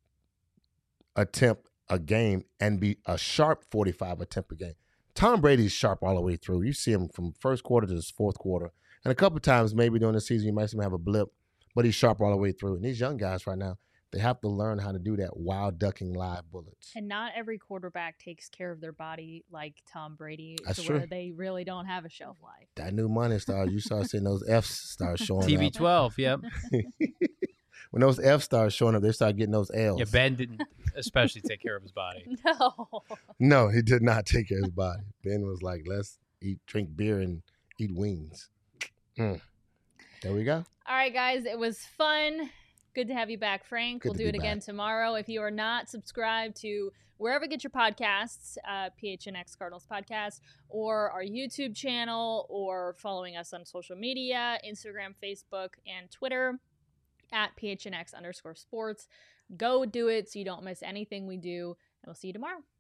attempt a game and be a sharp forty-five attempt a game. Tom Brady's sharp all the way through. You see him from first quarter to his fourth quarter. And a couple of times maybe during the season you might see him have a blip, but he's sharp all the way through. And these young guys right now, they have to learn how to do that while ducking live bullets. And not every quarterback takes care of their body like Tom Brady, That's to true. where they really don't have a shelf life. That new money starts, you start seeing those F's start showing T B up. twelve. Yep. When those F's start showing up, they start getting those L's. Yeah, Ben didn't especially take care of his body. No. No, he did not take care of his body. Ben was like, let's eat, drink beer and eat wings. Mm. There we go. All right, guys, it was fun. Good to have you back, Frank. Good we'll to do be it again back. tomorrow. If you are not subscribed to wherever you get your podcasts, uh, P H N X Cardinals podcast, or our YouTube channel, or following us on social media, Instagram, Facebook, and Twitter, at P H N X underscore sports. Go do it so you don't miss anything we do, and we'll see you tomorrow.